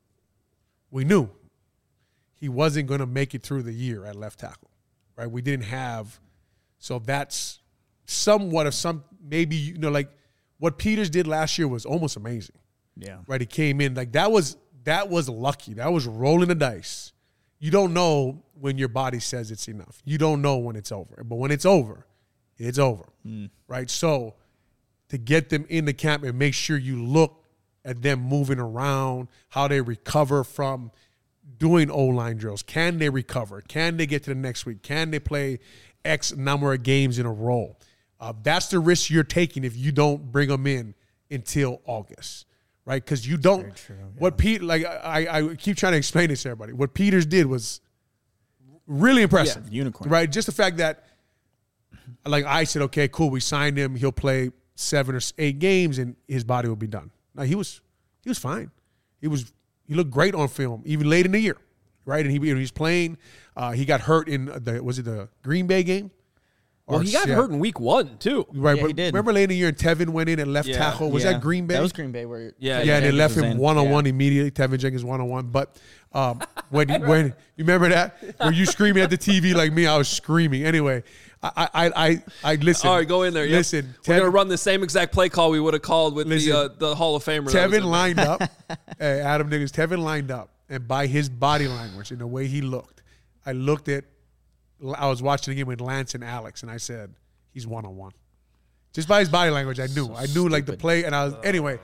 we knew he wasn't going to make it through the year at left tackle, right? We didn't have, so that's somewhat of some, maybe, like what Peters did last year was almost amazing. Yeah. Right? He came in, like that was lucky. That was rolling the dice. You don't know when your body says it's enough. You don't know when it's over. But when it's over, it's over, right? So to get them in the camp and make sure you look at them moving around, how they recover from doing O-line drills. Can they recover? Can they get to the next week? Can they play X number of games in a row? That's the risk you're taking if you don't bring them in until August, right? Because you don't. True, yeah. What Pete, like I keep trying to explain this to everybody. What Peters did was really impressive. Yeah, unicorn. Right? Just the fact that, like I said, okay, cool, we signed him. He'll play 7 or 8 games and his body will be done. No, he was fine. He looked great on film, even late in the year, right? And he was playing. He got hurt in the Green Bay game? Well, he got hurt in week 1 too. Right, yeah, but he did. Remember late in the year, Tevin went in and left tackle. Was that Green Bay? That was Green Bay. Where and they left him one-on-one immediately. Tevin Jenkins one-on-one. But when you remember that, were you screaming at the TV like me? I was screaming. Anyway, I listen. All right, go in there. Listen, we're gonna run the same exact play call we would have called with the Hall of Famer. Tevin lined up. Hey, Adam Niggins. Tevin lined up, and by his body language and the way he looked, I looked at I was watching the game with Lance and Alex, and I said he's 1-on-1. Just by his body language, I knew. I knew like the play, and I was anyway.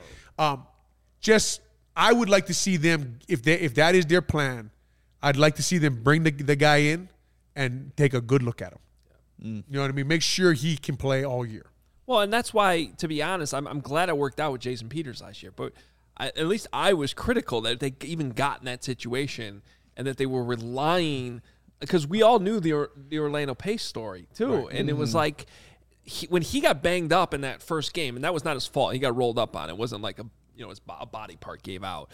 Just I would like to see them if that is their plan. I'd like to see them bring the guy in and take a good look at him. You know what I mean? Make sure he can play all year. Well, and that's why, to be honest, I'm glad it worked out with Jason Peters last year. But at least I was critical that they even got in that situation and that they were relying, because we all knew the Orlando Pace story too, right. And it was like when he got banged up in that first game, and that was not his fault. He got rolled up on. It wasn't like his body part gave out.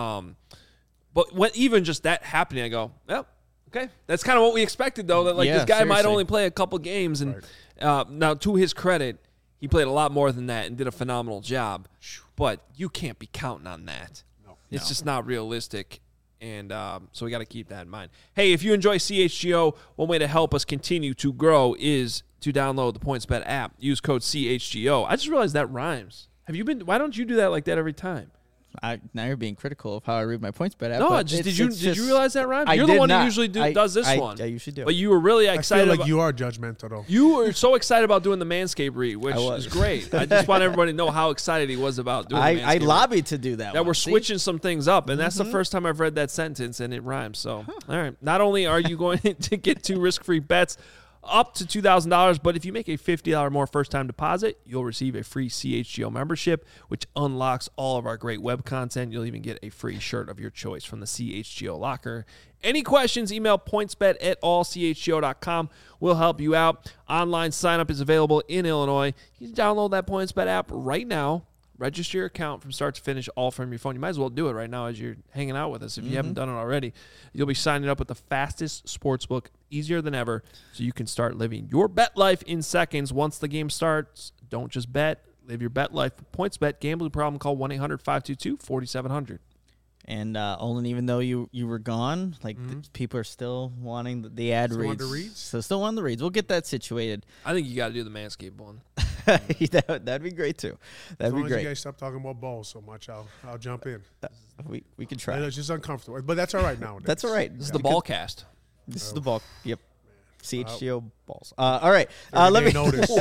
But when even just that happening, I go, well, okay, that's kind of what we expected though. That this guy might only play a couple games, and now to his credit, he played a lot more than that and did a phenomenal job. But you can't be counting on that. It's just not realistic. And so we got to keep that in mind. Hey, if you enjoy CHGO, one way to help us continue to grow is to download the PointsBet app. Use code CHGO. I just realized that rhymes. Why don't you do that like that every time? Now you're being critical of how I read my PointsBet app. No, did you realize that rhymes? You're the one who usually does this one. I usually do. But you were really excited. I feel like you are judgmental, though. You were so excited about doing the Manscaped read, which is great. I just want everybody to know how excited he was about doing the Manscaped I lobbied to do that. That we're switching some things up, and that's the first time I've read that sentence, and it rhymes. So, all right. Not only are you going to get 2 risk-free bets up to $2,000, but if you make a $50 more first-time deposit, you'll receive a free CHGO membership, which unlocks all of our great web content. You'll even get a free shirt of your choice from the CHGO locker. Any questions, email pointsbet@allchgo.com. We'll help you out. Online sign-up is available in Illinois. You can download that PointsBet app right now. Register your account from start to finish, all from your phone. You might as well do it right now as you're hanging out with us. If you haven't done it already, you'll be signing up with the fastest sportsbook, easier than ever, so you can start living your bet life in seconds. Once the game starts, don't just bet. Live your bet life with PointsBet. Gambling problem, call 1-800-522-4700. And Olin, even though you were gone, people are still wanting the ad reads. So still want the reads. We'll get that situated. I think you got to do the Manscaped one. That'd be great too. That'd be great. As long as you guys stop talking about balls so much, I'll jump in. We can try. It's just uncomfortable, but that's all right nowadays. That's all right. This is the ball cast. This is the ball. Yep. CHGO balls. All right. Let me notice.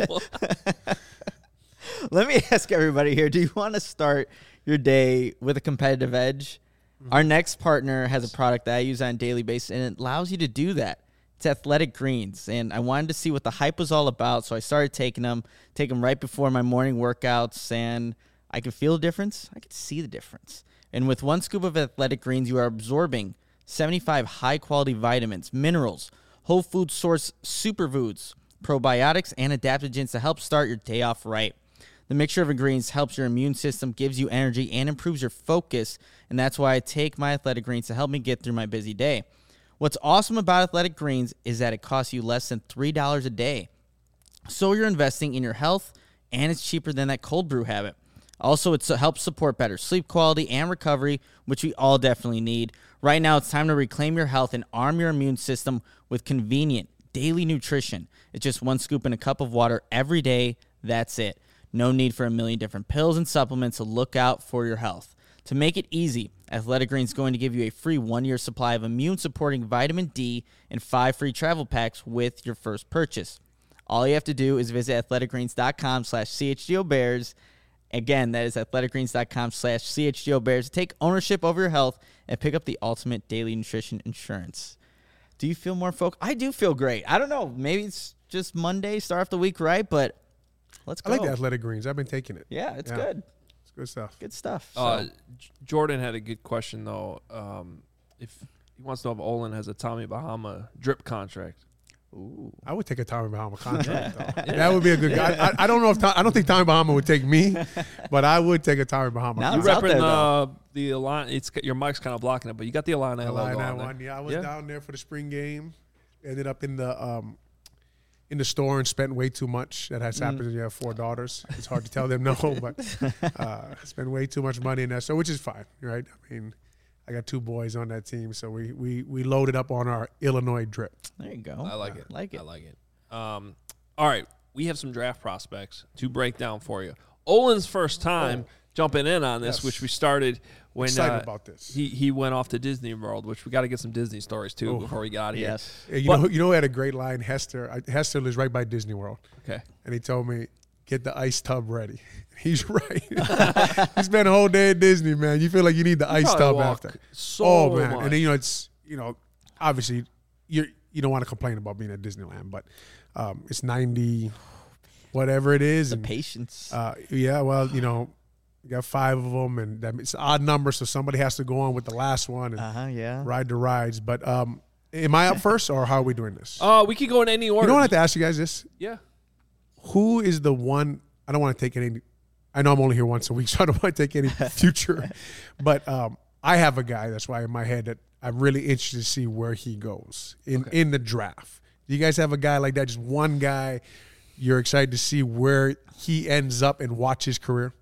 Let me ask everybody here. Do you want to start your day with a competitive edge? Our next partner has a product that I use on a daily basis, and it allows you to do that. It's Athletic Greens, and I wanted to see what the hype was all about, so I started taking them right before my morning workouts, and I could feel the difference. I could see the difference. And with 1 scoop of Athletic Greens, you are absorbing 75 high-quality vitamins, minerals, whole food source superfoods, probiotics, and adaptogens to help start your day off right. The mixture of greens helps your immune system, gives you energy, and improves your focus, and that's why I take my Athletic Greens to help me get through my busy day. What's awesome about Athletic Greens is that it costs you less than $3 a day. So you're investing in your health, and it's cheaper than that cold brew habit. Also, it helps support better sleep quality and recovery, which we all definitely need. Right now, it's time to reclaim your health and arm your immune system with convenient daily nutrition. It's just 1 scoop in a cup of water every day. That's it. No need for a million different pills and supplements to look out for your health. To make it easy, Athletic Greens is going to give you a free 1-year supply of immune-supporting vitamin D and 5 free travel packs with your first purchase. All you have to do is visit athleticgreens.com/CHGOBears. Again, that is athleticgreens.com/CHGOBears to take ownership over your health and pick up the ultimate daily nutrition insurance. Do you feel more focused? I do feel great. I don't know. Maybe it's just Monday, start off the week right, but let's go. I like the Athletic Greens. I've been taking it. Yeah, it's good. Good stuff. Good stuff. Jordan had a good question, though. If he wants to know if Olin has a Tommy Bahama drip contract. Ooh. I would take a Tommy Bahama contract, though. That would be a good guy. I don't know if I don't think Tommy Bahama would take me, but I would take a Tommy Bahama You're contract. repping the Illini. Your mic's kind of blocking it, but you got the Illini logo on there. One. Yeah, I was down there for the spring game. Ended up in the store and spent way too much. That has happened when you have 4 daughters. It's hard to tell them no, but spend way too much money in that store, which is fine, right? I mean, I got 2 boys on that team, so we loaded up on our Illinois drip. There you go. I like it. I like it. All right, we have some draft prospects to break down for you. Olin's first time jumping in on this, Yes. which we started when Excited about this. he went off to Disney World, which we got to get some Disney stories too before we got out of here. Yes. Yeah, you But- know who had a great line? Hester. Hester lives right by Disney World. Okay. And he told me, get the ice tub ready. He's right. He spent a whole day at Disney, man. You feel like you need the ice probably tub walk after. so Oh, man. much. And then, it's, obviously you don't want to complain about being at Disneyland, but it's 90, whatever it is. The and, patience. yeah, well, you got 5 of them, and it's an odd number, so somebody has to go on with the last one and Yeah. ride the rides. But am I up first, or how are we doing this? We could go in any order. You know what I have to ask you guys this? Yeah. Who is the one? I don't want to take any. I know I'm only here once a week, so I don't want to take any future. But I have a guy that's why in my head that I'm really interested to see where he goes in the draft. Do you guys have a guy like that? Just one guy you're excited to see where he ends up and watch his career?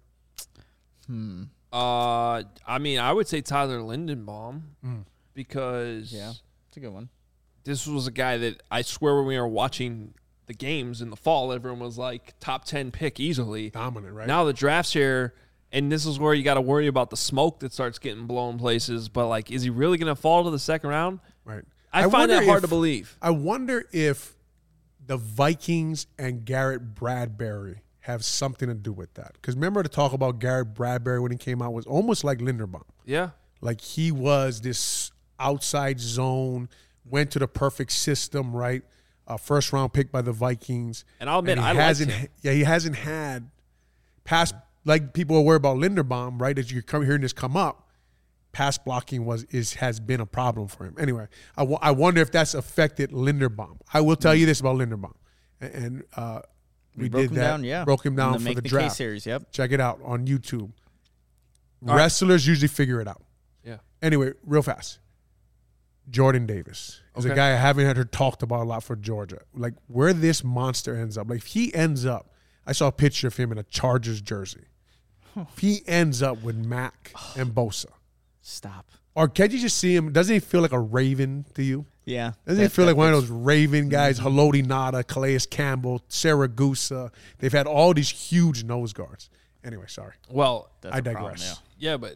I mean, I would say Tyler Lindenbaum because It's a good one. this was a guy that I swear when we were watching the games in the fall, everyone was like top 10 pick easily. Dominant, right? Now the draft's here, and this is where you got to worry about the smoke that starts getting blown places. But, like, is he really going to fall to the second round? Right. I find that wonder hard to believe. I wonder if the Vikings and Garrett Bradbury have something to do with that. Because remember, to talk about Garrett Bradbury when he came out was almost like Linderbaum. Yeah. Like he was this outside zone, went to the perfect system, right? First round pick by the Vikings. And I'll admit, he I liked hasn't. him. Yeah, he hasn't had pass, like people are worried about Linderbaum, right? As you're hearing this come up, pass blocking has been a problem for him. Anyway, I wonder if that's affected Linderbaum. I will tell you this about Linderbaum, and we broke did him that. down, yeah. Broke him down In for Make the the draft. K series, yep. Check it out on YouTube. All right. Wrestlers usually figure it out. Yeah. Anyway, real fast. Jordan Davis is a Okay. guy I haven't heard talked about a lot for Georgia. Like where this monster ends up. Like if he ends up, I saw a picture of him in a Chargers jersey. If he ends up with Mac and Bosa, Stop. or can you just see him? Doesn't he feel like a Raven to you? Yeah. Doesn't he feel like one of those Raven guys? Haloti Nada, Calais Campbell, Saragusa. They've had all these huge nose guards. Anyway, sorry. Well, I digress. yeah, but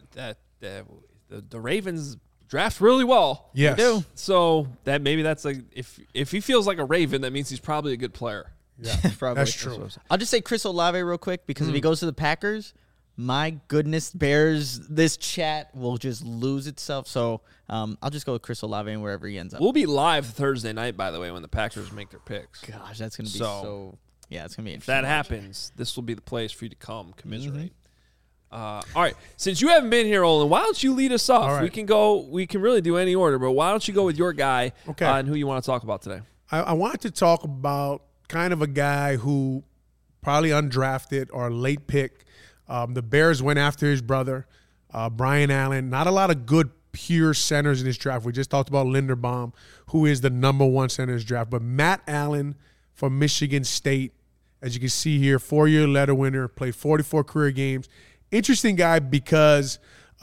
the Ravens draft really well. Yes. They do. So that's like if he feels like a Raven, that means he's probably a good player. Yeah, Probably. that's true. I'll just say Chris Olave real quick because if he goes to the Packers, my goodness, Bears, this chat will just lose itself. So I'll just go with Chris Olave and wherever he ends up. We'll be live Thursday night, by the way, when the Packers make their picks. Gosh, that's going to be So- so yeah, it's going to be If interesting. that happens, this will be the place for you to come commiserate. All right, since you haven't been here, Olin, why don't you lead us off? All right. We can really do any order, but why don't you go with your guy Okay. and who you want to talk about today? I wanted to talk about kind of a guy who probably undrafted or a late pick. The Bears went after his brother, Brian Allen. Not a lot of good pure centers in this draft. We just talked about Linderbaum, who is the number 1 center in this draft. But Matt Allen from Michigan State, as you can see here, 4-year letter winner, played 44 career games. Interesting guy because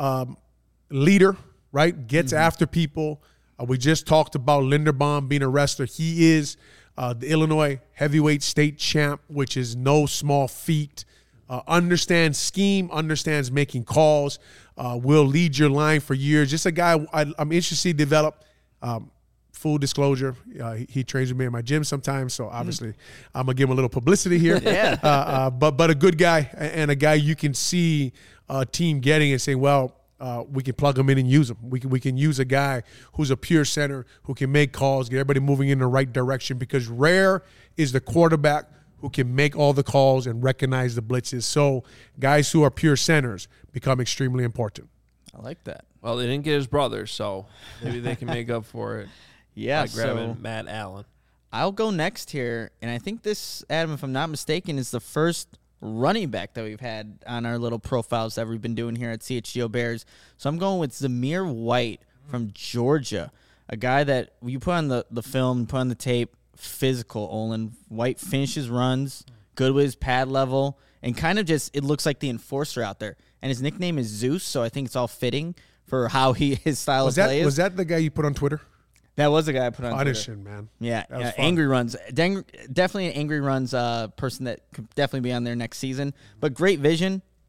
leader, right? Gets after people. We just talked about Linderbaum being a wrestler. He is the Illinois heavyweight state champ, which is no small feat. Understands scheme, understands making calls, will lead your line for years. Just a guy I'm interested to see develop. Full disclosure, he trains with me in my gym sometimes, so obviously I'm gonna give him a little publicity here. Yeah. But a good guy and a guy you can see a team getting and saying, well, we can plug him in and use him. We can use a guy who's a pure center who can make calls, get everybody moving in the right direction. Because rare is the quarterback who can make all the calls and recognize the blitzes. So guys who are pure centers become extremely important. I like that. Well, they didn't get his brother, so maybe they can make up for it Yeah, by grabbing so Matt Allen. I'll go next here, and I think this, Adam, if I'm not mistaken, is the first running back that we've had on our little profiles that we've been doing here at CHGO Bears. So I'm going with Zamir White from Georgia, a guy that you put on the film, put on the tape, physical. Olin White finishes runs, good with his pad level, and kind of just it looks like the enforcer out there. And his nickname is Zeus, so I think it's all fitting for how his style of play is. Was that the guy you put on Twitter? That was the guy I put on Twitter. Audition, man. Yeah, That was fun. angry runs. Definitely an angry runs person that could definitely be on there next season. But great vision.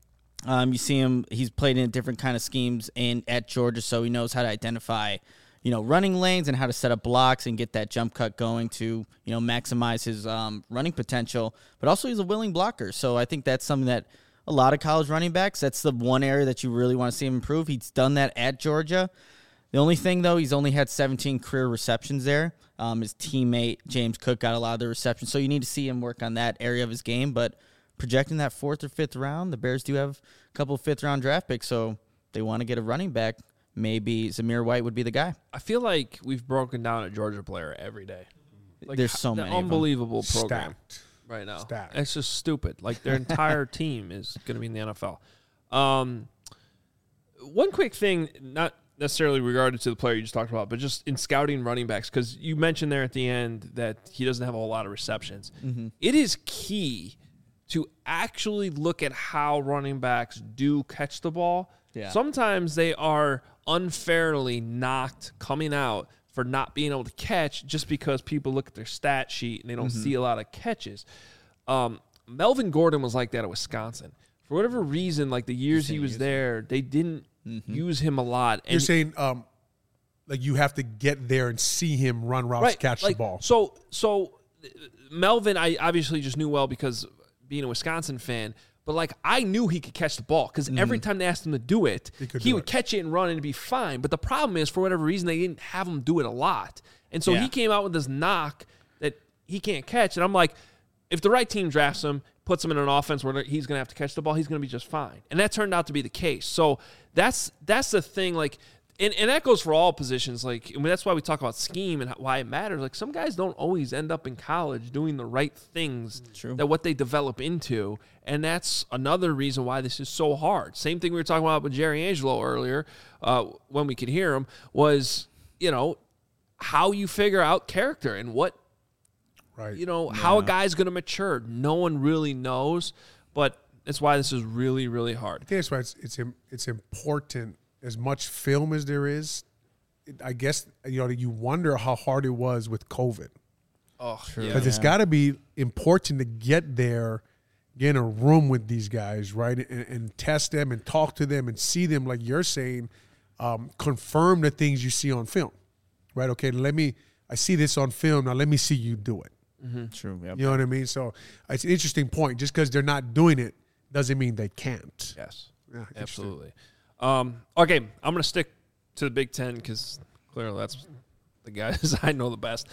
You see him; he's played in different kind of schemes at Georgia, so he knows how to identify, running lanes and how to set up blocks and get that jump cut going to, maximize his running potential. But also, he's a willing blocker, so I think that's something that a lot of college running backs. That's the one area that you really want to see him improve. He's done that at Georgia. The only thing, though, he's only had 17 career receptions there. His teammate James Cook got a lot of the receptions, so you need to see him work on that area of his game, but projecting that 4th or 5th round, the Bears do have a couple of 5th-round draft picks, so they want to get a running back. Maybe Zamir White would be the guy. I feel like we've broken down a Georgia player every day. Like, There's so many. Unbelievable program Stacked. right now. Stacked. It's just stupid. Like, their entire team is going to be in the NFL. One quick thing, not necessarily regarded to the player you just talked about, but just in scouting running backs, because you mentioned there at the end that he doesn't have a whole lot of receptions. Mm-hmm. It is key to actually look at how running backs do catch the ball. Yeah. Sometimes they are unfairly knocked coming out for not being able to catch just because people look at their stat sheet and they don't see a lot of catches. Melvin Gordon was like that at Wisconsin. For whatever reason, like the years he was there, they didn't use him a lot. And You're saying like you have to get there and see him run routes, catch the ball. So Melvin, I obviously just knew well because being a Wisconsin fan, but like I knew he could catch the ball because every time they asked him to do it, he would catch it and run and it'd be fine. But the problem is, for whatever reason, they didn't have him do it a lot. And so he came out with this knock that he can't catch. And I'm like, if the right team drafts him, puts him in an offense where he's going to have to catch the ball, he's going to be just fine. And that turned out to be the case. So that's the thing. Like, and that goes for all positions. Like, I mean, that's why we talk about scheme and why it matters. Like, some guys don't always end up in college doing the right things that what they develop into. And that's another reason why this is so hard. Same thing we were talking about with Jerry Angelo earlier when we could hear him was, how you figure out character and what, how a guy's going to mature. No one really knows, but that's why this is really, really hard. I think that's why it's important. As much film as there is, I guess, you wonder how hard it was with COVID. Oh, because it's got to be important to get there, get in a room with these guys, right, and test them and talk to them and see them, like you're saying, confirm the things you see on film, right? Okay, I see this on film, now let me see you do it. Mm-hmm. True. Yep. You know what I mean? So it's an interesting point. Just because they're not doing it doesn't mean they can't. Yes, yeah, absolutely. Okay, I'm going to stick to the Big Ten because clearly that's the guys I know the best.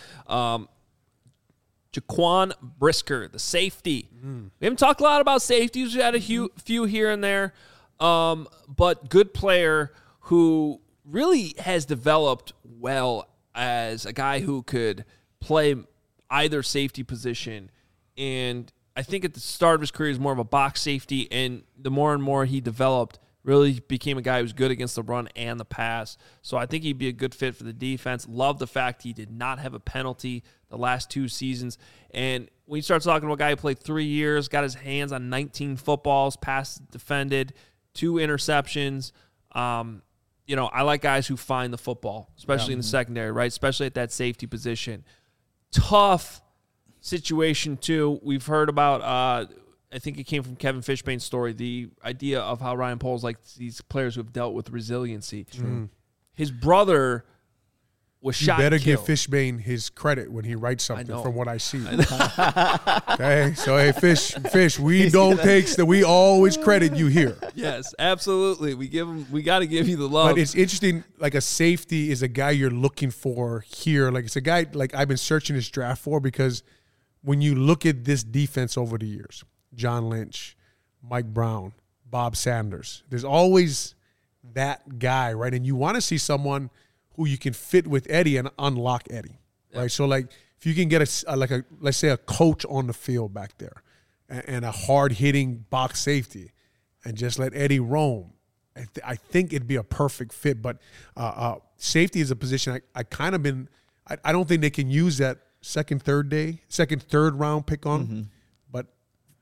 Jaquan Brisker, the safety. We haven't talked a lot about safeties. We had a few here and there, but good player who really has developed well as a guy who could play either safety position. And I think at the start of his career, he was more of a box safety, and the more and more he developed, really became a guy who was good against the run and the pass. So I think he'd be a good fit for the defense. Love the fact he did not have a penalty the last 2 seasons. And when you start talking about a guy who played 3 years, got his hands on 19 footballs, pass defended, 2 interceptions. I like guys who find the football, especially in the secondary, right? Especially at that safety position. Tough situation, too. We've heard about I think it came from Kevin Fishbane's story, the idea of how Ryan Poles likes these players who have dealt with resiliency. His brother was shot You better and give killed. Fishbane his credit when he writes something from what I see. I Okay? So, hey, Fish, we always credit you here. Yes, absolutely. We got to give you the love. But it's interesting, like a safety is a guy you're looking for here. Like it's a guy like I've been searching this draft for because when you look at this defense over the years, John Lynch, Mike Brown, Bob Sanders, there's always that guy, right? And you want to see someone who you can fit with Eddie and unlock Eddie, right? So like if you can get let's say a coach on the field back there and a hard hitting box safety and just let Eddie roam, I think it'd be a perfect fit. But safety is a position I kind of been. I don't think they can use that second, third round pick on, but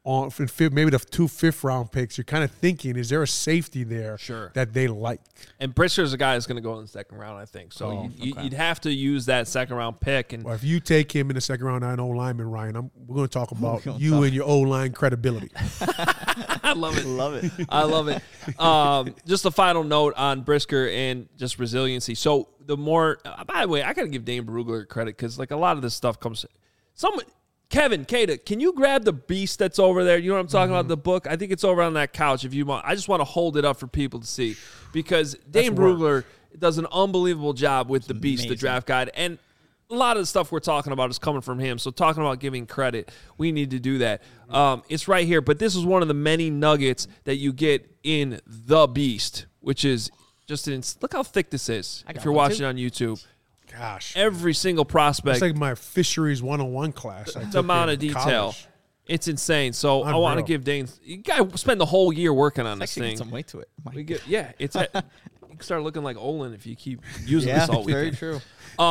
on maybe the 2 5th-round picks, you're kind of thinking, is there a safety there Sure. that they like? And Brisker's a guy that's going to go in the second round, I think. So you'd have to use that second-round pick. And Well, if you take him in the second round, I know lineman, Ryan, we're going to talk about you and your O-line credibility. I love it. Love it. I love it. Just a final note on Brisker and just resiliency. So the more, by the way, I got to give Dane Brugler credit because like a lot of this stuff comes. Kevin, Kata, can you grab the beast that's over there? You know what I'm talking about? The book. I think it's over on that couch. If you want, I just want to hold it up for people to see because Dane Brugler does an unbelievable job with the beast, the draft guide, and a lot of the stuff we're talking about is coming from him. So talking about giving credit, we need to do that. It's right here, but this is one of the many nuggets that you get in The Beast, which is just look how thick this is if you're watching on YouTube. Gosh. Every single prospect. It's like my fisheries 101 class. The amount of detail. College. It's insane. So I want to give Dane, you got to spend the whole year working on this Actually, thing. get some weight to it. We get, yeah, it's you can start looking like Olin if you keep using this all weekend. Very true.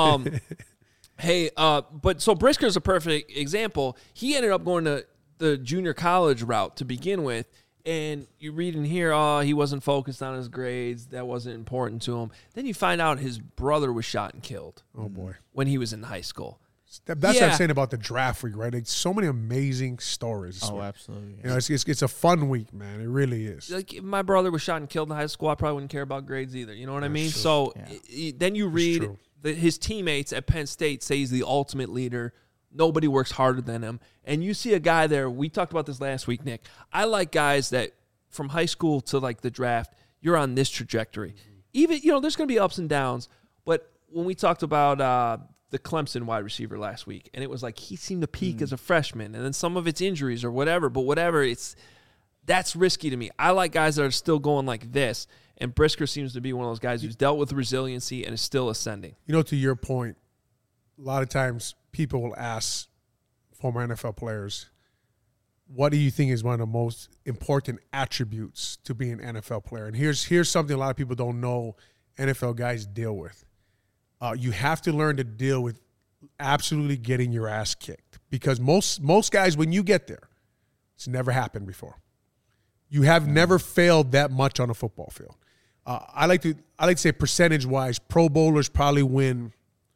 Hey, but so Brisker's a perfect example. He ended up going to the junior college route to begin with, and you read in here, he wasn't focused on his grades. That wasn't important to him. Then you find out his brother was shot and killed. Oh, boy. When he was in high school. That's what I'm saying about the draft week, right? Like, so many amazing stories. Oh, absolutely. You know, it's a fun week, man. It really is. Like, if my brother was shot and killed in high school, I probably wouldn't care about grades either. You know what I mean? So then you read his teammates at Penn State say he's the ultimate leader. Nobody works harder than him. And you see a guy there. We talked about this last week, Nick. I like guys that from high school to like the draft, you're on this trajectory. Even, you know, there's going to be ups and downs. But when we talked about the Clemson wide receiver last week, and it was like he seemed to peak as a freshman, and then some of it's injuries or whatever. But whatever, that's risky to me. I like guys that are still going like this. And Brisker seems to be one of those guys who's dealt with resiliency and is still ascending. You know, to your point, a lot of times people will ask former NFL players, what do you think is one of the most important attributes to being an NFL player? And here's something a lot of people don't know NFL guys deal with. You have to learn to deal with absolutely getting your ass kicked. Because most guys, when you get there, it's never happened before. You have never failed that much on a football field. I like to say percentage-wise, Pro Bowlers probably win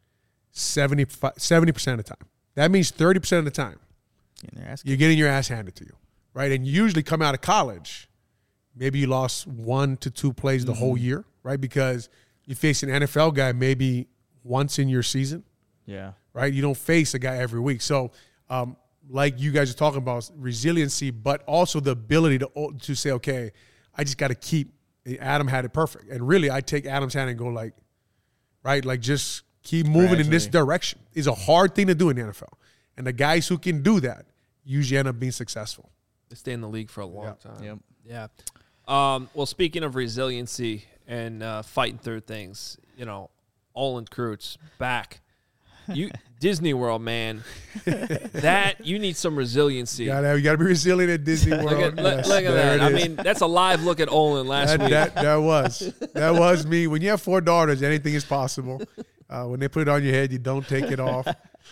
70% of the time. That means 30% of the time you're getting your ass handed to you, right? And you usually come out of college, maybe you lost 1 to 2 plays the whole year, right? Because you face an NFL guy maybe once in your season, right? You don't face a guy every week. So like you guys are talking about resiliency, but also the ability to say, okay, I just got to keep. Adam had it perfect. And really, I take Adam's hand and go like, right, like just keep moving in this direction. It's a hard thing to do in the NFL. And the guys who can do that usually end up being successful. They stay in the league for a long time. Yep. Yeah. Well, speaking of resiliency and fighting through things, you know, Olin Kreutz back. Disney World, man. That you need some resiliency. You gotta be resilient at Disney World. Look at that. I mean, that's a live look at Olin last week. That was me. When you have 4 daughters, anything is possible. When they put it on your head, you don't take it off.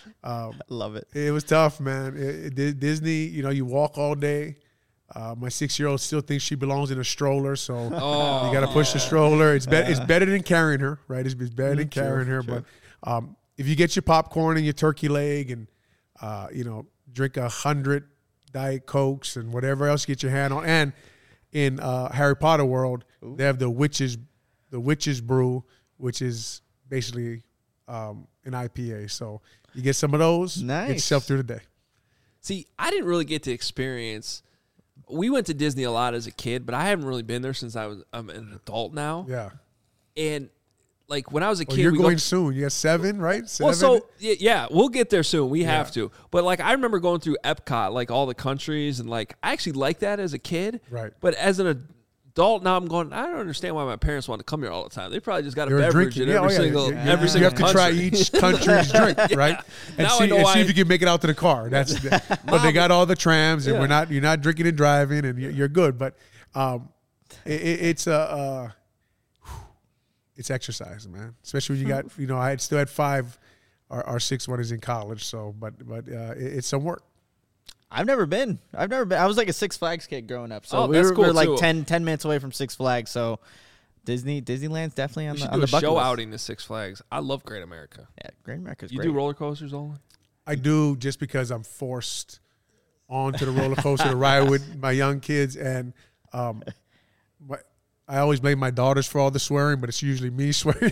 Love it. It was tough, man. Disney, you know, you walk all day. My 6-year-old still thinks she belongs in a stroller, so you got to push the stroller. It's better than carrying her, right? It's better than carrying her. True. But if you get your popcorn and your turkey leg and, you know, drink 100 Diet Cokes and whatever else you get your hand on. And in Harry Potter world, they have the witch's brew, which is basically an IPA. So you get some of those, get yourself through the day. See, I didn't really get to experience. We went to Disney a lot as a kid, but I haven't really been there since I'm an adult now. Yeah. And like when I was a kid, you're going soon. You have 7, right? 7? Well, so yeah, we'll get there soon. We have to. But like I remember going through Epcot, like all the countries, and like I actually liked that as a kid. Right. But as an adult now, I'm going. I don't understand why my parents want to come here all the time. They probably just got a beverage in every single You have to try each country's drink, right? And now see if you can make it out to the car. But they got all the trams, and you're not drinking and driving, and you're good. But it's exercise, man. Especially when you got, you know, I still had 5. Our 6th one is in college, so but it's some work. I've never been. I was like a Six Flags kid growing up, so Oh, we that's were cool, like too. 10 minutes away from Six Flags. So Disneyland's definitely on We the should on do the a bucket show list. outing to Six Flags. I love Great America. Yeah, Great America's You great. do roller coasters, Olin? I do just because I'm forced onto the roller coaster to ride with my young kids, and I always blame my daughters for all the swearing, but it's usually me swearing.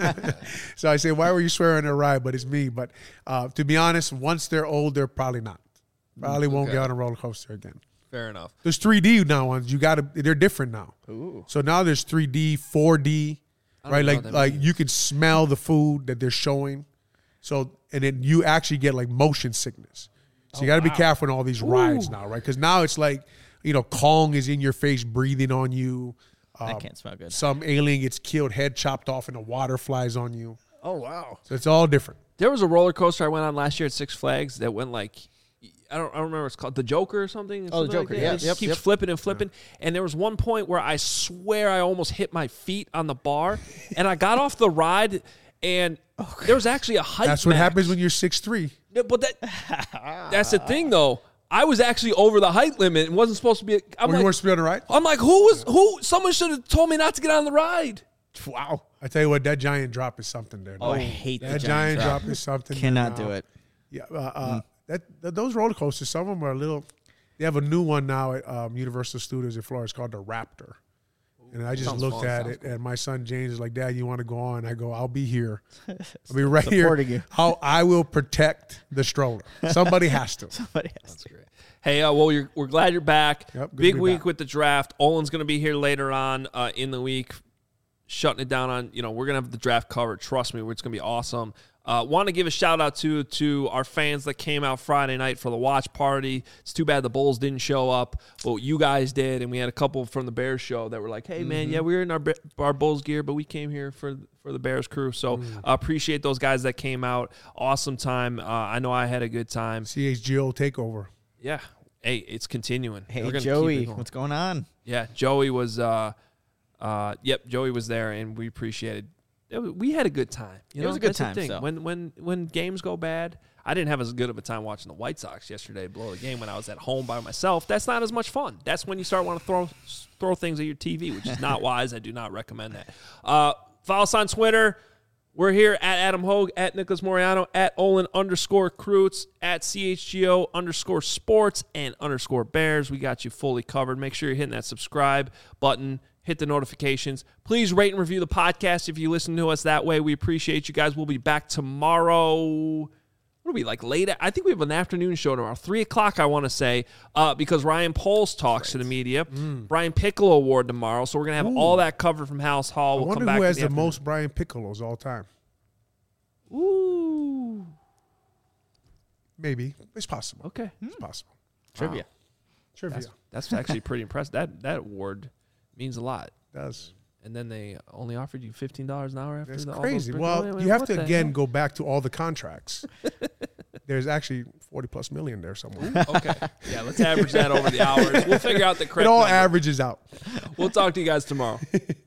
So I say, "Why were you swearing on a ride?" But it's me. But to be honest, once they're older, probably not. Probably won't Okay. get on a roller coaster again. Fair enough. There's 3D now ones. They're different now. Ooh. So now there's 3D, 4D, I don't right? know Like what that means. you can smell the food that they're showing. So and then you actually get like motion sickness. So you got to be careful on all these rides now, right? Because now it's like, Kong is in your face breathing on you. That can't smell good. Some alien gets killed, head chopped off, and the water flies on you. Oh wow. So it's all different. There was a roller coaster I went on last year at Six Flags that went like, I don't remember what it's called, the Joker or something. Oh, the Something like Joker, that. yeah, It just yep, keeps yep. flipping and flipping. And there was one point where I swear I almost hit my feet on the bar, and I got off the ride, and there was actually a height. That's what max. happens when you're 6'3". Yeah, but that's the thing, though. I was actually over the height limit and wasn't supposed to be. I'm You like, weren't supposed to be on the ride? I'm like, who? Someone should have told me not to get on the ride. Wow. I tell you what, that giant drop is something there. Oh, I hate that the giant drop. drop is something. Cannot there do now. it. Yeah, those roller coasters, some of them are a little. They have a new one now at Universal Studios in Florida. It's called the Raptor. And I just Sounds looked fun, at sounds it, and my son James is like, "Dad, you want to go on?" I go, "I'll be here. I'll be right here. Supporting you. How I will protect the stroller. Somebody has to." Somebody has That's to. great. Hey, we're glad you're back. Yep, good to Big be week back. with the draft. Olin's going to be here later on in the week, shutting it down on. We're going to have the draft covered. Trust me, it's going to be awesome. Want to give a shout out to our fans that came out Friday night for the watch party. It's too bad the Bulls didn't show up, but you guys did, and we had a couple from the Bears show that were like, "Hey man, yeah, we were in our Bulls gear, but we came here for the Bears crew." So appreciate those guys that came out. Awesome time. I know I had a good time. CHGO takeover. Yeah. Hey, it's continuing. Hey We're gonna keep Joey, it going. what's going on? Yeah, Joey was Joey was there, and we appreciated. We had a good time. It was a good That's the time, thing. so. When games go bad, I didn't have as good of a time watching the White Sox yesterday blow the game when I was at home by myself. That's not as much fun. That's when you start wanting to throw things at your TV, which is not wise. I do not recommend that. Follow us on Twitter. We're here at Adam Hogue, at Nicholas Moriano, at Olin_Kreutz, at CHGO_sports and _Bears. We got you fully covered. Make sure you're hitting that subscribe button. Hit the notifications. Please rate and review the podcast if you listen to us that way. We appreciate you guys. We'll be back tomorrow. What are we, like late? I think we have an afternoon show tomorrow, 3 o'clock, I want to say, because Ryan Poles talks to the media. Brian Piccolo Award tomorrow, so we're going to have all that covered from House Hall. I We'll come wonder back who in has the afternoon. most Brian Piccolos all time. Ooh. Maybe. It's possible. Okay. It's possible. Trivia. Trivia. That's actually pretty impressive. That award means a lot. does. And then they only offered you $15 an hour after That's all those crazy. big- Well, Wait, you have what to, the again, hell? go back to all the contracts. There's actually 40+ million there somewhere. Okay. Yeah, let's average that over the hours. We'll figure out the It correct all number. averages out. We'll talk to you guys tomorrow.